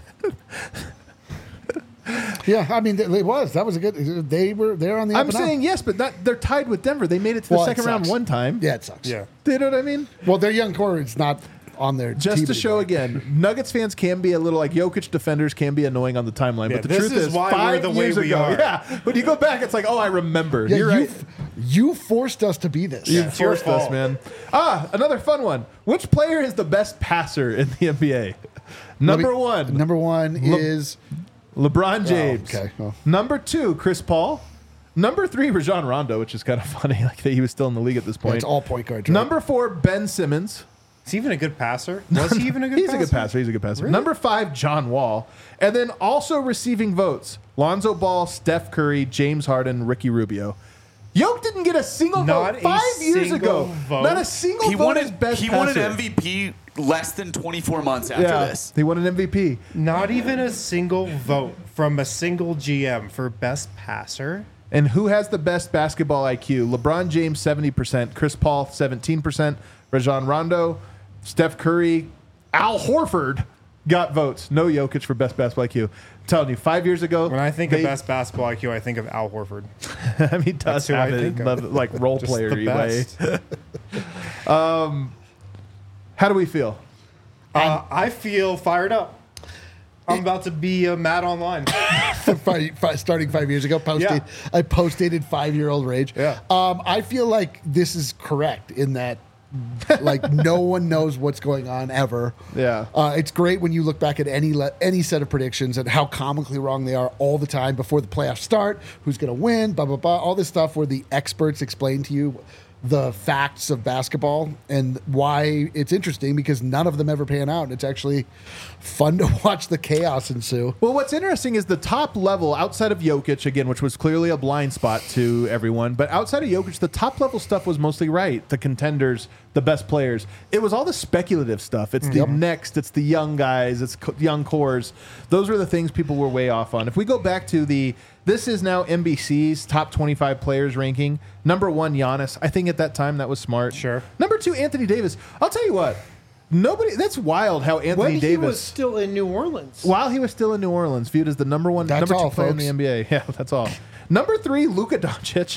Yeah, I mean, it was. That was a good. They were there on the. I'm up and up. saying yes, but not, they're tied with Denver. They made it to the Well, it second round sucks. one time. Yeah, it sucks. yeah. You know what I mean? Well, their young core is not on their Just team to show anymore. again, Nuggets fans can be a little like Jokic defenders can be annoying on the timeline, Yeah, but the this truth is is, why we're five the way years we ago, are. yeah, when you go back, it's like, oh, I remember. Yeah, You're you, right. f- you forced us to be this. You it's your forced us, fault. man. Ah, another fun one. Which player is the best passer in the N B A? Number Let me- one, Number one Le- is LeBron James. okay, well. Number two, Chris Paul. Number three, Rajon Rondo, which is kind of funny, like that he was still in the league at this yeah, point. it's all point guards. Right? Number four, Ben Simmons. Is he even a good passer? Was he even a good He's passer? a good passer. He's a good passer. Number five, John Wall. And then also receiving votes, Lonzo Ball, Steph Curry, James Harden, Ricky Rubio. Yoke didn't get a single Not vote a five years single ago. vote? Not a single He vote won as it. best He passer. won an M V P less than twenty-four months after Yeah, this. he won an M V P. Not even a single vote from a single G M for best passer. And who has the best basketball I Q? LeBron James, seventy percent. Chris Paul, seventeen percent. Rajon Rondo, Steph Curry, Al Horford got votes. No Jokic for best basketball I Q. I'm telling you, five years ago. When I think they- of best basketball I Q, I think of Al Horford. I mean, he does That's who have I it, think of. love- like role Just player the way. best. How do we feel? Uh, I feel fired up. I'm about to be uh, mad online. five, five, starting five years ago, posted. Yeah. I post-dated five-year-old rage. Yeah. Um, I feel like this is correct in that, like, no one knows what's going on ever. Yeah. Uh, it's great when you look back at any le- any set of predictions and how comically wrong they are all the time before the playoffs start. Who's going to win? Blah blah blah. All this stuff where the experts explain to you the facts of basketball and why it's interesting because none of them ever pan out. It's actually fun to watch the chaos ensue. Well, what's interesting is the top level outside of Jokic, again, which was clearly a blind spot to everyone, but outside of Jokic, the top level stuff was mostly right. The contenders, the best players. It was all the speculative stuff. It's the Yep. next, it's the young guys, it's co- young cores. Those were the things people were way off on. If we go back to the, this is now N B C's top twenty-five players ranking. Number one, Giannis. I think at that time that was smart. Sure. Number two, Anthony Davis. I'll tell you what. Nobody. That's wild how Anthony When Davis. he was still in New Orleans. While he was still in New Orleans, viewed as the number one, That's number two all, player in the folks. N B A. Yeah, that's all. Number three, Luka Doncic.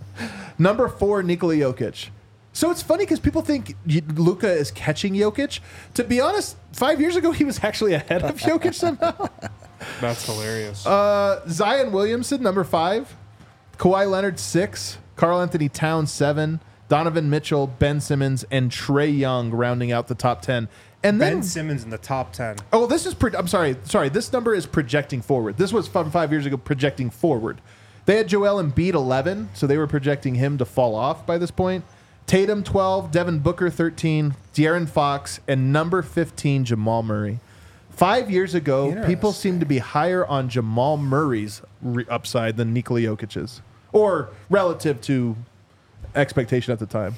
Number four, Nikola Jokic. So it's funny because people think Luka is catching Jokic. To be honest, five years ago he was actually ahead of Jokic somehow. That's hilarious. Uh, Zion Williamson, number five. Kawhi Leonard, six. Karl Anthony Towns, seven. Donovan Mitchell, Ben Simmons, and Trae Young rounding out the top ten. And then Ben Simmons in the top ten. Oh, this is. Pro- I'm sorry. Sorry. This number is projecting forward. This was from five years ago, projecting forward. They had Joel Embiid eleven, so they were projecting him to fall off by this point. Tatum twelve, Devin Booker thirteen, De'Aaron Fox, and number fifteen, Jamal Murray. Five years ago, people seemed to be higher on Jamal Murray's re- upside than Nikola Jokic's, or relative to expectation at the time.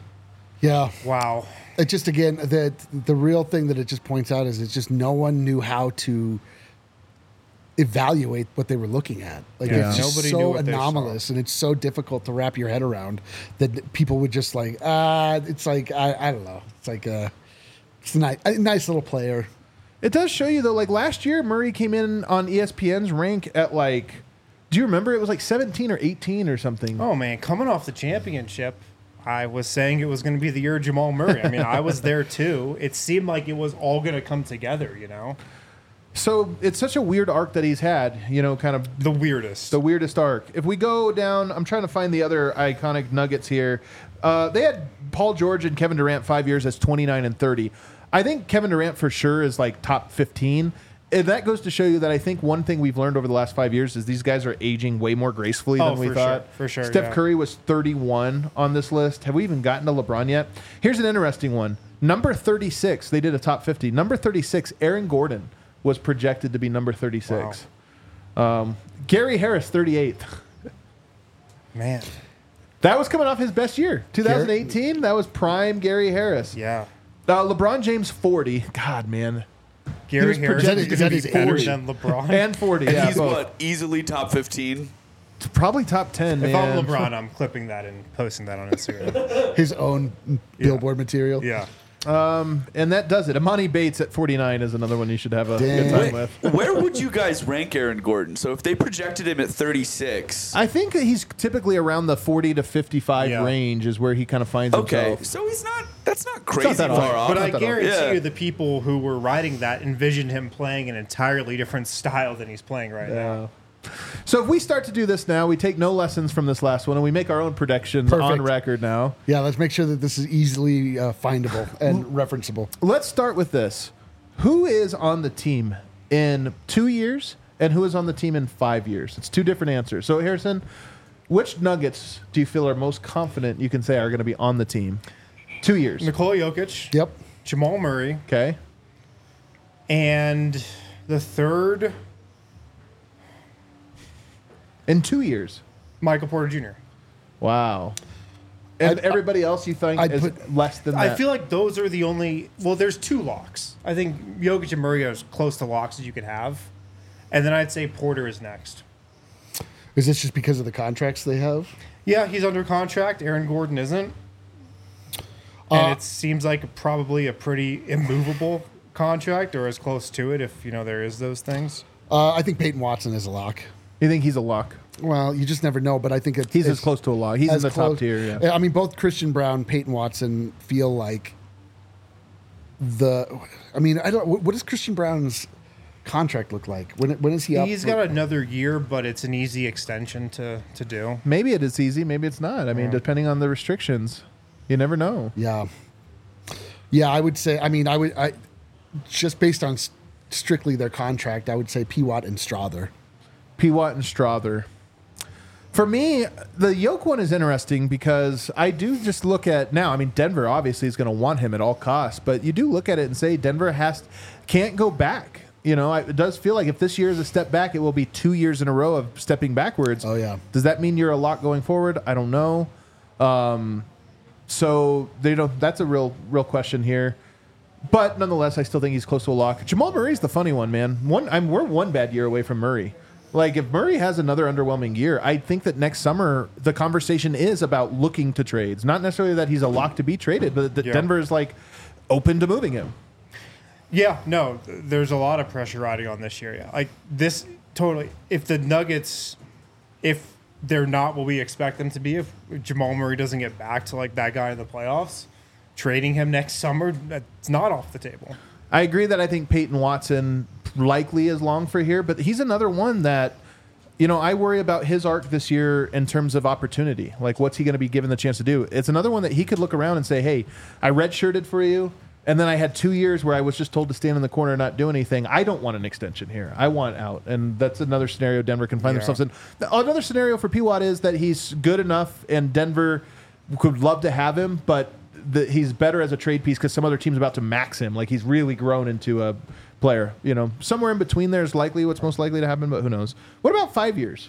Yeah. Wow. It just again that the real thing that it just points out is it's just no one knew how to evaluate what they were looking at. Like Yeah. it's just Nobody knew so what they saw. anomalous and it's so difficult to wrap your head around that people would just like ah. It's like I, I don't know. It's like a it's a nice, a nice little player. It does show you though. Like last year, Murray came in on E S P N's rank at like. Do you remember? It was like seventeen or eighteen or something. Oh man, coming off the championship, I was saying it was going to be the year of Jamal Murray. I mean, I was there too. It seemed like it was all going to come together, you know? So it's such a weird arc that he's had, you know, kind of The weirdest. the weirdest arc. If we go down, I'm trying to find the other iconic nuggets here. Uh, they had Paul George and Kevin Durant five years as twenty-nine and thirty. I think Kevin Durant for sure is like top fifteen. And that goes to show you that I think one thing we've learned over the last five years is these guys are aging way more gracefully Oh, than we for thought. sure, for sure, Steph yeah. Curry was thirty-one on this list. Have we even gotten to LeBron yet? Here's an interesting one. Number thirty-six, they did a top fifty. Number thirty-six, Aaron Gordon was projected to be number thirty-six. Um, Gary Harris, thirty-eighth. Man. That was coming off his best year. twenty eighteen, that was prime Gary Harris. Yeah. Uh, LeBron James, forty. God, man. Gary was Harris projected is to going be to be better forty. than LeBron. And forty, And yeah, he's both. what? Easily top fifteen. Probably top ten, if man. I'm LeBron, I'm clipping that and posting that on Instagram. His own billboard material. Yeah. And that does it. Amani Bates at forty-nine is another one you should have a Damn. good time with. Where would you guys rank Aaron Gordon? So if they projected him at thirty-six, I think that he's typically around the forty to fifty-five Yeah. range is where he kind of finds okay, himself. so he's not. That's not crazy that far off. off. But not I that guarantee Yeah. you the people who were writing that envisioned him playing an entirely different style than he's playing right now. So if we start to do this now, we take no lessons from this last one, and we make our own predictions on Perfect. record now. Yeah, let's make sure that this is easily uh, findable and referenceable. Let's start with this. Who is on the team in two years, and who is on the team in five years? It's two different answers. So, Harrison, which Nuggets do you feel are most confident you can say are going to be on the team? Two years. Nikola Jokic, Yep. Jamal Murray, Okay. and the third, In two years. Michael Porter Junior Wow. And I'd- everybody else you think I'd is put- less than that? I feel like those are the only. Well, there's two locks. I think Jokic and Murray are as close to locks as you could have, and then I'd say Porter is next. Is this just because of the contracts they have? Yeah, he's under contract. Aaron Gordon isn't, Uh, and it seems like probably a pretty immovable contract, or as close to it, if you know there is those things. Uh, I think Peyton Watson is a lock. You think he's a lock? Well, you just never know, but I think it's, He's it's as close to a lock. He's in as the close- top tier, yeah. I mean, both Christian Brown, Peyton Watson feel like the. I mean, I don't. What does Christian Brown's contract look like? When when is he up? He's for- got another year, but it's an easy extension to to do. Maybe it is easy, maybe it's not. I mean, depending on the restrictions. You never know. Yeah. Yeah, I would say. I mean, I would. I just based on s- strictly their contract, I would say P. Watt and Strother. P. Watt and Strother. For me, the Yoke one is interesting because I do just look at now. I mean, Denver obviously is going to want him at all costs, but you do look at it and say Denver has can't go back. You know, I- it does feel like if this year is a step back, it will be two years in a row of stepping backwards. Oh, yeah. Does that mean you're a lock going forward? I don't know. Um, so they don't. That's a real, real question here. But nonetheless, I still think he's close to a lock. Jamal Murray's the funny one, man. One, I'm we're one bad year away from Murray. Like if Murray has another underwhelming year, I think that next summer the conversation is about looking to trades. Not necessarily that he's a lock to be traded, but that Yeah. Denver is like open to moving him. Yeah, no, th- there's a lot of pressure riding on this year. Yeah, like this totally. If the Nuggets, if they're not what we expect them to be, if Jamal Murray doesn't get back to like that guy in the playoffs, trading him next summer, that's not off the table. I agree that I think Peyton Watson likely is long for here, but he's another one that, you know, I worry about his arc this year in terms of opportunity. Like, what's he going to be given the chance to do? It's another one that he could look around and say, hey, I redshirted for you, and then I had two years where I was just told to stand in the corner and not do anything. I don't want an extension here. I want out. And that's another scenario Denver can find Yeah. themselves in. Another scenario for P. Watt is that he's good enough, and Denver could love to have him, but the, he's better as a trade piece because some other team's about to max him. Like, he's really grown into a player. You know, somewhere in between there is likely what's most likely to happen, but who knows? What about five years?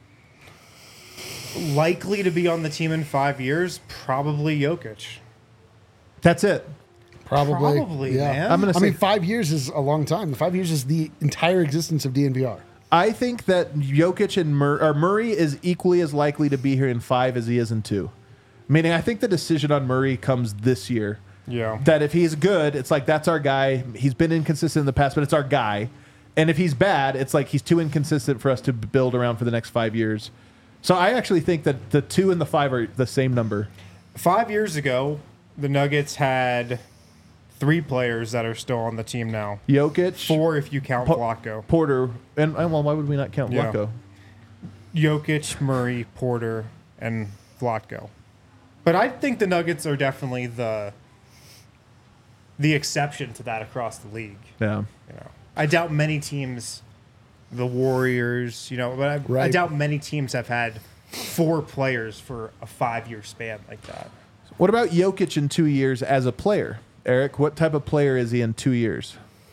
Likely to be on the team in five years, probably Jokic. That's it. Probably. Probably, yeah. man. I'm gonna I say mean, five years is a long time. Five years is the entire existence of D N V R. I think that Jokic and Mur- or Murray is equally as likely to be here in five as he is in two. Meaning, I think the decision on Murray comes this year. Yeah. That if he's good, it's like that's our guy. He's been inconsistent in the past, but it's our guy. And if he's bad, it's like he's too inconsistent for us to build around for the next five years. So I actually think that the two and the five are the same number. five years ago, the Nuggets had three players that are still on the team now. Jokic, Four if you count Po- Vlatko. Porter, and, and well, why would we not count Yeah. Vlatko? Jokic, Murray, Porter, and Vlatko. But I think the Nuggets are definitely the the exception to that across the league. Yeah. You know, I doubt many teams, the Warriors, you know, but I, I Right. doubt many teams have had four players for a five-year span like that. What about Jokic in two years as a player? Eric, what type of player is he in two years?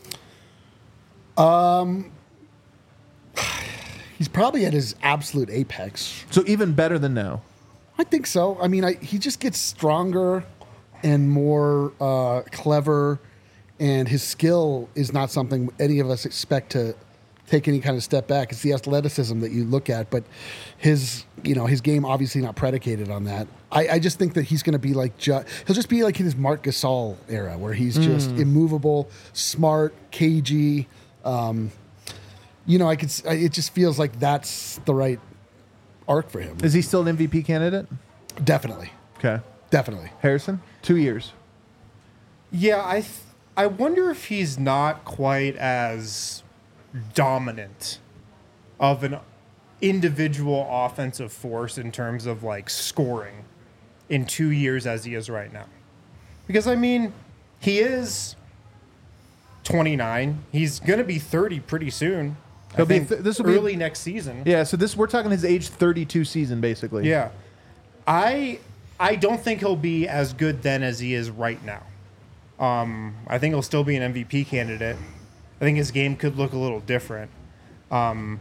He's probably at his absolute apex. So even better than now. I think so. I mean, I, he just gets stronger and more uh, clever, and his skill is not something any of us expect to take any kind of step back. It's the athleticism that you look at, but his, you know, his game obviously not predicated on that. I, I just think that he's going to be like, ju- he'll just be like in his Marc Gasol era, where he's just immovable, smart, cagey. Um, you know, I could. s- I- It just feels like that's the right arc for him. Is he still an M V P candidate? Definitely, Okay. definitely. Harrison, two years. Yeah, I th- I wonder if he's not quite as dominant of an individual offensive force in terms of like scoring in two years as he is right now. Because I mean, he is twenty-nine. He's going to be thirty pretty soon. I He'll be think th- this will be- early next season. Yeah, so this we're talking his age thirty-two season, basically. Yeah. I I don't think he'll be as good then as he is right now. Um, I think he'll still be an M V P candidate. I think his game could look a little different. Um,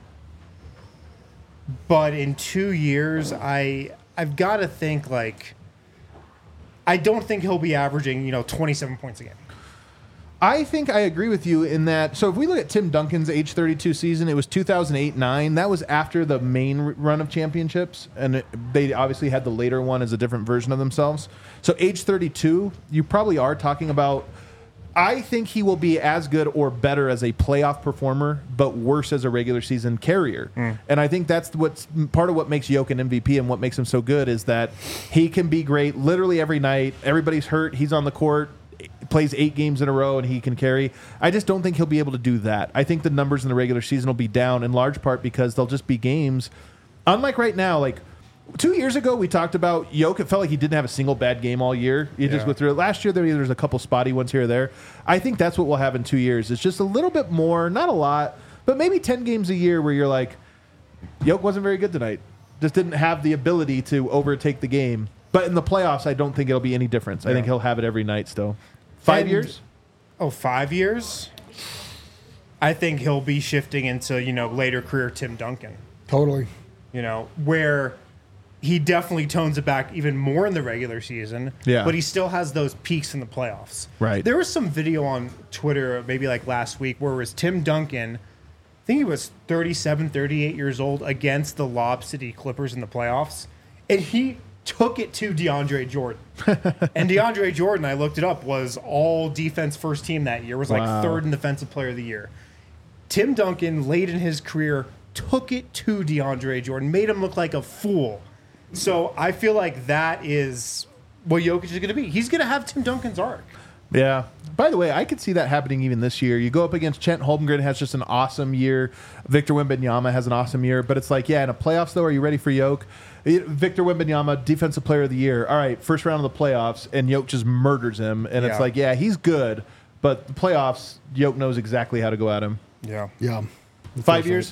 but in two years, I I've got to think like I don't think he'll be averaging, you know, twenty-seven points a game. I think I agree with you in that. So if we look at Tim Duncan's age thirty-two season, it was two thousand eight nine. That was after the main r- run of championships, and it, they obviously had the later one as a different version of themselves. So age thirty-two, you probably are talking about. I think he will be as good or better as a playoff performer, but worse as a regular season carrier. And I think that's what's part of what makes Jokic an M V P and what makes him so good is that he can be great literally every night. Everybody's hurt. He's on the court, plays eight games in a row, and he can carry. I just don't think he'll be able to do that. I think the numbers in the regular season will be down in large part because they'll just be games. Unlike right now, like two years ago, we talked about Jokic. It felt like he didn't have a single bad game all year. He just Yeah. went through it. Last year, there was a couple spotty ones here or there. I think that's what we'll have in two years. It's just a little bit more, not a lot, but maybe ten games a year where you're like, Jokic wasn't very good tonight. Just didn't have the ability to overtake the game. But in the playoffs, I don't think it'll be any difference. I think he'll have it every night still. Five And- years? Oh, five years? I think he'll be shifting into, you know, later career Tim Duncan. Totally. You know, where he definitely tones it back even more in the regular season. Yeah. But he still has those peaks in the playoffs. Right. There was some video on Twitter, maybe like last week, where it was Tim Duncan. I think he was thirty-seven, thirty-eight years old against the Lob City Clippers in the playoffs. And he took it to DeAndre Jordan. And DeAndre Jordan, I looked it up, was all defense first team that year, was like Wow. third in defensive player of the year. Tim Duncan, late in his career, took it to DeAndre Jordan, made him look like a fool. So I feel like that is what Jokic is going to be. He's going to have Tim Duncan's arc. Yeah. By the way, I could see that happening even this year. You go up against Chet Holmgren, has just an awesome year. Victor Wembanyama has an awesome year. But it's like, yeah, in a playoffs, though, are you ready for Jokic? Victor Wembanyama, Defensive Player of the Year. All right, first round of the playoffs, and Jokic just murders him. And it's Yeah. like, yeah, he's good. But the playoffs, Jokic knows exactly how to go at him. Yeah. Yeah. Five years?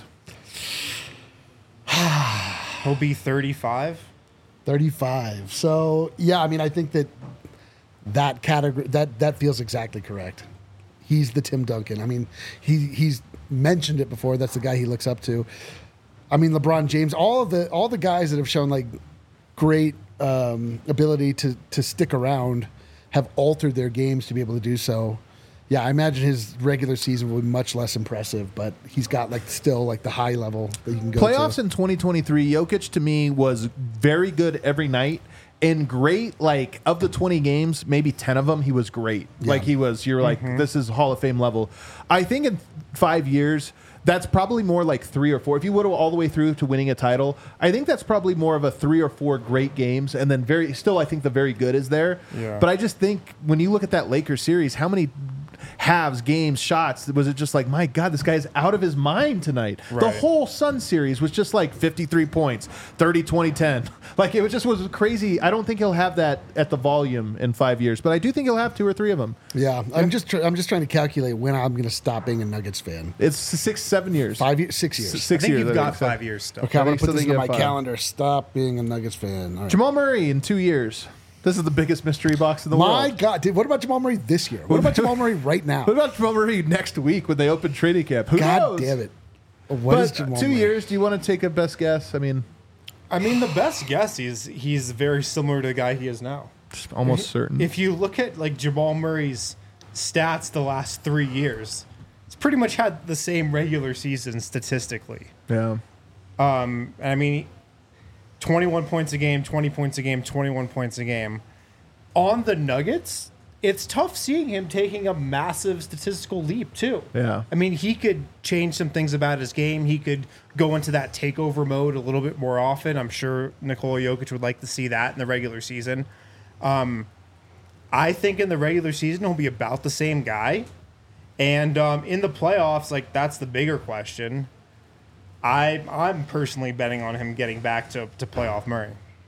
He'll be thirty-five. thirty-five. So, yeah, I mean, I think that that category, that, that feels exactly correct. He's the Tim Duncan. I mean, he he's mentioned it before. That's the guy he looks up to. I mean, LeBron James, all of the all the guys that have shown like great um, ability to to stick around have altered their games to be able to do so. Yeah, I imagine his regular season will be much less impressive, but he's got like still like the high level that you can go Playoffs to. in twenty twenty-three, Jokic to me was very good every night and great. Like of the twenty games, maybe ten of them he was great. Like he was, you're like, this is Hall of Fame level. I think in five years, That's probably more like three or four. If you whittle all the way through to winning a title, I think that's probably more of a three or four great games, and then very still, I think the very good is there. Yeah. But I just think when you look at that Lakers series, how many halves, games, shots, was it just like, my God, this guy's out of his mind tonight. The Right. whole Sun series was just like fifty-three points, thirty, twenty, ten. Like, it was just was crazy. I don't think he'll have that at the volume in five years, but I do think he'll have two or three of them. Yeah, I'm just tr- I'm just trying to calculate when I'm going to stop being a Nuggets fan. It's six, seven years. Five years, six years. S- I Six think years. you've got think so. five years still. Okay, I'm I going think to put so this they into get my five. calendar. Stop being a Nuggets fan. All right. Jamal Murray in two years. This is the biggest mystery box in the My world. God, dude, what about Jamal Murray this year? What about Jamal Murray right now? What about Jamal Murray next week when they open training camp? Who God knows? damn it! What is But Jamal two Murray? years. Do you want to take a best guess? I mean, I mean, the best guess is he's very similar to the guy he is now. almost certain. If you look at like Jamal Murray's stats the last three years, he's pretty much had the same regular season statistically. yeah. Um, I mean, twenty-one points a game, twenty points a game, twenty-one points a game. On the Nuggets, it's tough seeing him taking a massive statistical leap too. Yeah. I mean, he could change some things about his game. He could go into that takeover mode a little bit more often. I'm sure Nikola Jokic would like to see that in the regular season. Um, I think in the regular season he'll be about the same guy, and um, in the playoffs, like that's the bigger question. I I'm personally betting on him getting back to to playoff Murray.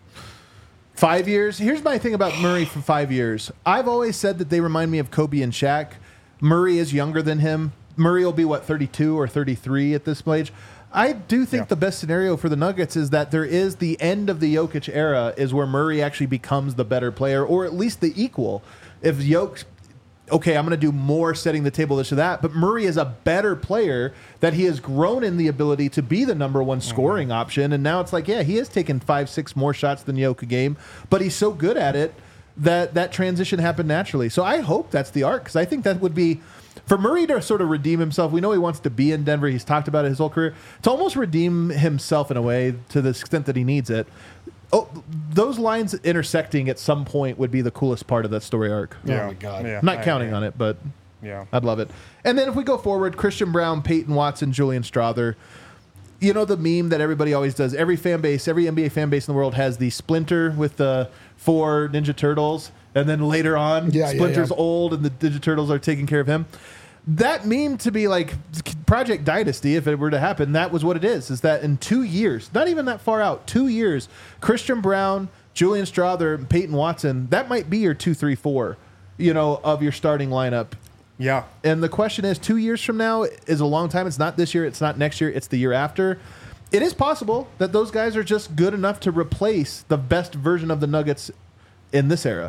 Five years. Here's my thing about Murray for five years. I've always said that they remind me of Kobe and Shaq. Murray is younger than him. Murray will be, what, thirty-two or thirty-three at this stage. I do think Yeah. the best scenario for the Nuggets is that there is the end of the Jokic era is where Murray actually becomes the better player, or at least the equal. If Jokic, okay, I'm going to do more setting the table, this or that, but Murray is a better player, that he has grown in the ability to be the number one scoring option. And now it's like, yeah, he has taken five, six more shots than Jokic a game, but he's so good at it that that transition happened naturally. So I hope that's the arc, because I think that would be, for Murray to sort of redeem himself. We know he wants to be in Denver. He's talked about it his whole career. To almost redeem himself in a way to the extent that he needs it. Oh, those lines intersecting at some point would be the coolest part of that story arc. Oh my God. Yeah, I'm not I counting agree. on it, but Yeah. I'd love it. And then if we go forward, Christian Brown, Peyton Watson, Julian Strawther. You know the meme that everybody always does. Every fan base, every N B A fan base in the world has the Splinter with the four Ninja Turtles, and then later on, Yeah, yeah, Splinter's yeah. old and the Ninja Turtles are taking care of him. That meme to be like Project Dynasty, if it were to happen, that was what it is. Is that in two years, not even that far out, two years, Christian Brown, Julian Strawther, and Peyton Watson, that might be your two, three, four, you know, of your starting lineup. Yeah. And the question is, two years from now is a long time. It's not this year. It's not next year. It's the year after. It is possible that those guys are just good enough to replace the best version of the Nuggets in this era.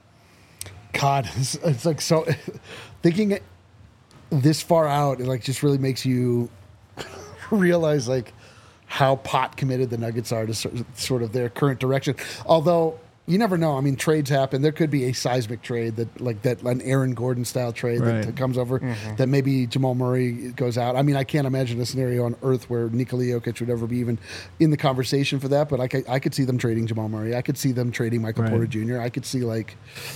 God, it's, it's like so. Thinking it this far out, it like just really makes you realize like how pot committed the Nuggets are to sort sort of their current direction. Although you never know. I mean, trades happen. There could be a seismic trade that like that an Aaron Gordon style trade Right. that, that comes over. That maybe Jamal Murray goes out. I mean, I can't imagine a scenario on earth where Nikola Jokic would ever be even in the conversation for that. But I could, I could see them trading Jamal Murray. I could see them trading Michael Right. Porter Junior I could see like.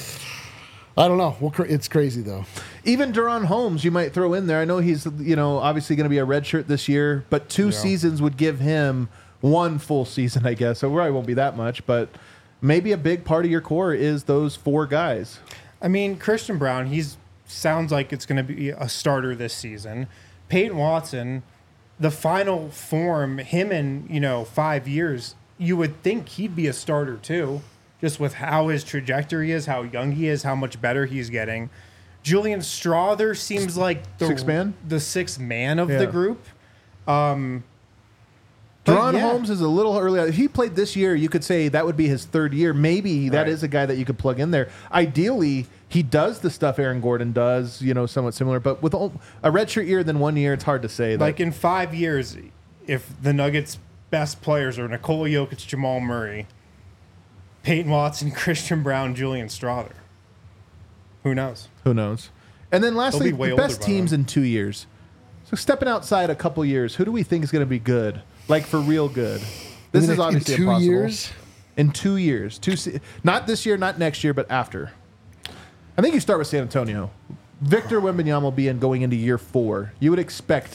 I don't know. Well, cra- it's crazy though. Even Duron Holmes, you might throw in there. I know he's, you know, obviously going to be a redshirt this year, but two seasons would give him one full season, I guess. So it probably won't be that much, but maybe a big part of your core is those four guys. I mean, Christian Brown, he's sounds like it's going to be a starter this season. Peyton Watson, the final form, him in, you know, five years, you would think he'd be a starter too, just with how his trajectory is, how young he is, how much better he's getting. Julian Strawther seems like the Sixth man? the sixth man of Yeah. the group. Um, but Duron yeah. Holmes is a little early. If he played this year, you could say that would be his third year. Maybe that Right. is a guy that you could plug in there. Ideally, he does the stuff Aaron Gordon does, you know, somewhat similar. But with a redshirt year, then one year, it's hard to say. That, Like in five years, if the Nuggets' best players are Nikola Jokic, Jamal Murray, Peyton Watson, Christian Brown, Julian Strawther, who knows? who knows? And then lastly, be way the older best by teams then. in two years. So stepping outside a couple years, who do we think is going to be good? Like for real good? This I mean, is in obviously two impossible. years. In two years, two se- not this year, not next year, but after. I think you start with San Antonio. Victor Wembanyama will be in going into year four. You would expect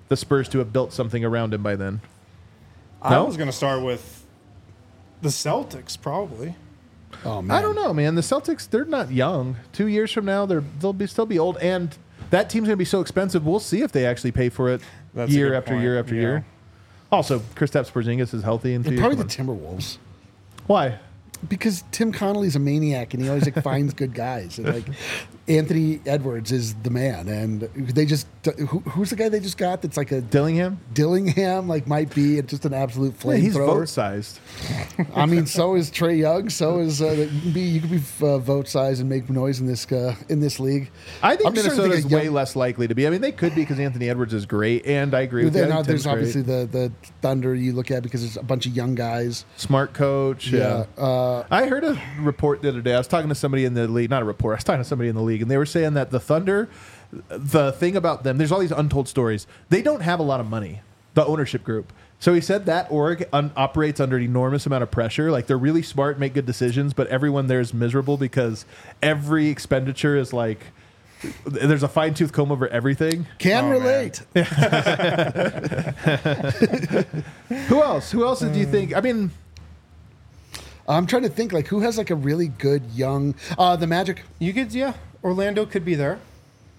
the Spurs to have built something around him by then. I No? was going to start with the Celtics, probably. Oh man, I don't know, man. The Celtics, they're not young. Two years from now, they're they'll be still be old, and that team's going to be so expensive. We'll see if they actually pay for it That's a year good after point, year after yeah. year. Also, Kristaps Porzingis is healthy in two years. Probably the Come on. Timberwolves. Why? Because Tim Connolly's a maniac and he always like finds good guys. And like Anthony Edwards is the man, and they just who, who's the guy they just got that's like a Dillingham? Dillingham like might be just an absolute Yeah, he's flamethrower. vote sized. I mean, so is Trey Young. So is uh, you can be you can be uh, vote size and make noise in this uh, in this league. I think I'm just trying to Minnesota's think of way young- less likely to be. I mean, they could be because Anthony Edwards is great, and I agree with Then, you. uh, Tim's there's great. obviously the the Thunder you look at because there's a bunch of young guys. Smart coach. Yeah. Yeah, uh, I heard a report the other day. I was talking to somebody in the league, not a report. I was talking to somebody in the league, and they were saying that the Thunder, the thing about them, there's all these untold stories. They don't have a lot of money, the ownership group. So he said that org un- operates under an enormous amount of pressure. Like they're really smart, make good decisions, but everyone there is miserable because every expenditure is like, there's a fine tooth comb over everything. can Oh, relate. Who else? Who else do you think? I mean, I'm trying to think like who has like a really good young uh the Magic. You could, yeah. Orlando could be there.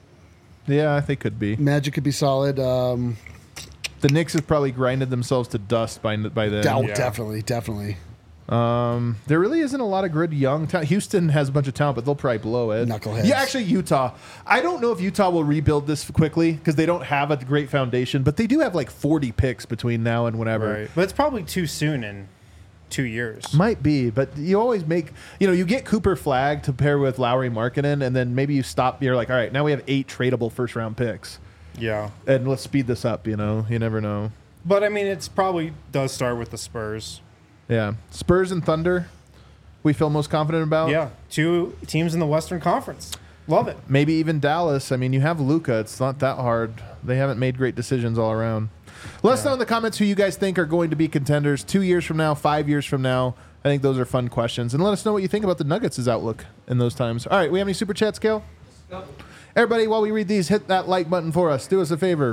yeah, they could be. Magic could be solid. Um The Knicks has probably grinded themselves to dust by by then. oh, Yeah. definitely, definitely. Um, there really isn't a lot of good young talent. Houston has a bunch of talent, but they'll probably blow it. Knuckleheads. Yeah, actually, Utah. I don't know if Utah will rebuild this quickly because they don't have a great foundation, but they do have like forty picks between now and whenever. Right. But it's probably too soon in two years. Might be, but you always make, you know, you get Cooper Flag to pair with Lowry Markkanen, and then maybe you stop. You're like, all right, now we have eight tradable first round picks, Yeah. and let's speed this up. You know, you never know. But, I mean, it's probably does start with the Spurs. Yeah, Spurs and Thunder. We feel most confident about. Yeah. Two teams in the Western Conference. Love it. Maybe even Dallas. I mean, you have Luka. It's not that hard. They haven't made great decisions all around. Let us know in the comments who you guys think are going to be contenders two years from now, five years from now. I think those are fun questions. And let us know what you think about the Nuggets' outlook in those times. All right, we have any super chats, Kale? Everybody, while we read these, hit that like button for us. Do us a favor.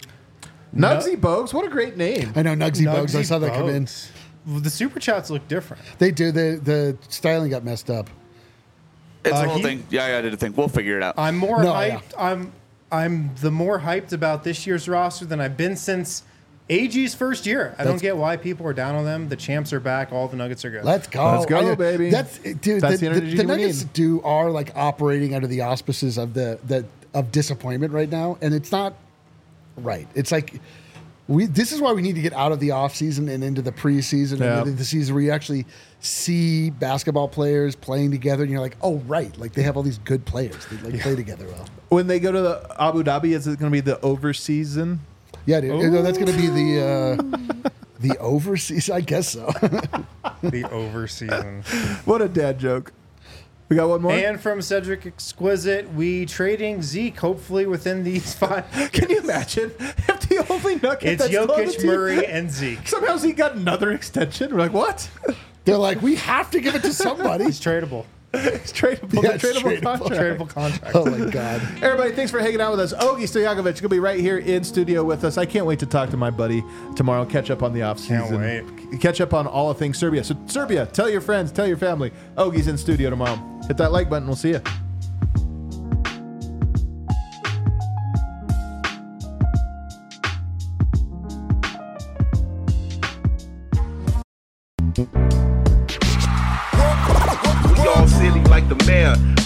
Nugsy Bogues, what a great name. I know Nugsy Bugs. I Nugsy saw that come in. Bogues. The Super Chats look different. They do. The the styling got messed up. It's Uh, a whole he- thing. Yeah, I did a thing. We'll figure it out. I'm more No, hyped. yeah. I'm I'm the more hyped about this year's roster than I've been since A G's first year. I don't That's- get why people are down on them. The champs are back. All the Nuggets are good. Let's go. Let's go, I- baby. That's dude. That's the, the the, energy the we Nuggets need. do are like operating under the auspices of the the of disappointment right now, and it's not right. It's like we. This is why we need to get out of the off season and into the preseason Yeah. and into the season where you actually see basketball players playing together, and you're like, oh right, like they have all these good players. They like play together well. When they go to the Abu Dhabi, is it going to be the over season? Yeah, dude. You know, that's going to be the uh, the overseas. I guess so. the over season. What a dad joke. We got one more? And from Cedric Exquisite, we trading Zeke hopefully within these five. Can you imagine if the only Nugget It's that's on the Jokic, team- Murray, and Zeke. Somehow Zeke got another extension. We're like, what? They're like, we have to give it to somebody. It's tradable. It's tradable. Yeah, It's it's tradable, tradable. contract. Tradable contract. Oh my god. Everybody, thanks for hanging out with us. Ogie Stojakovic going to be right here in studio with us. I can't wait to talk to my buddy tomorrow. Catch up on the off Can't season. wait. Catch up on all of things Serbia. So Serbia, tell your friends, tell your family. Ogie's in studio tomorrow. Hit that like button. We'll see you. We all silly like the mayor.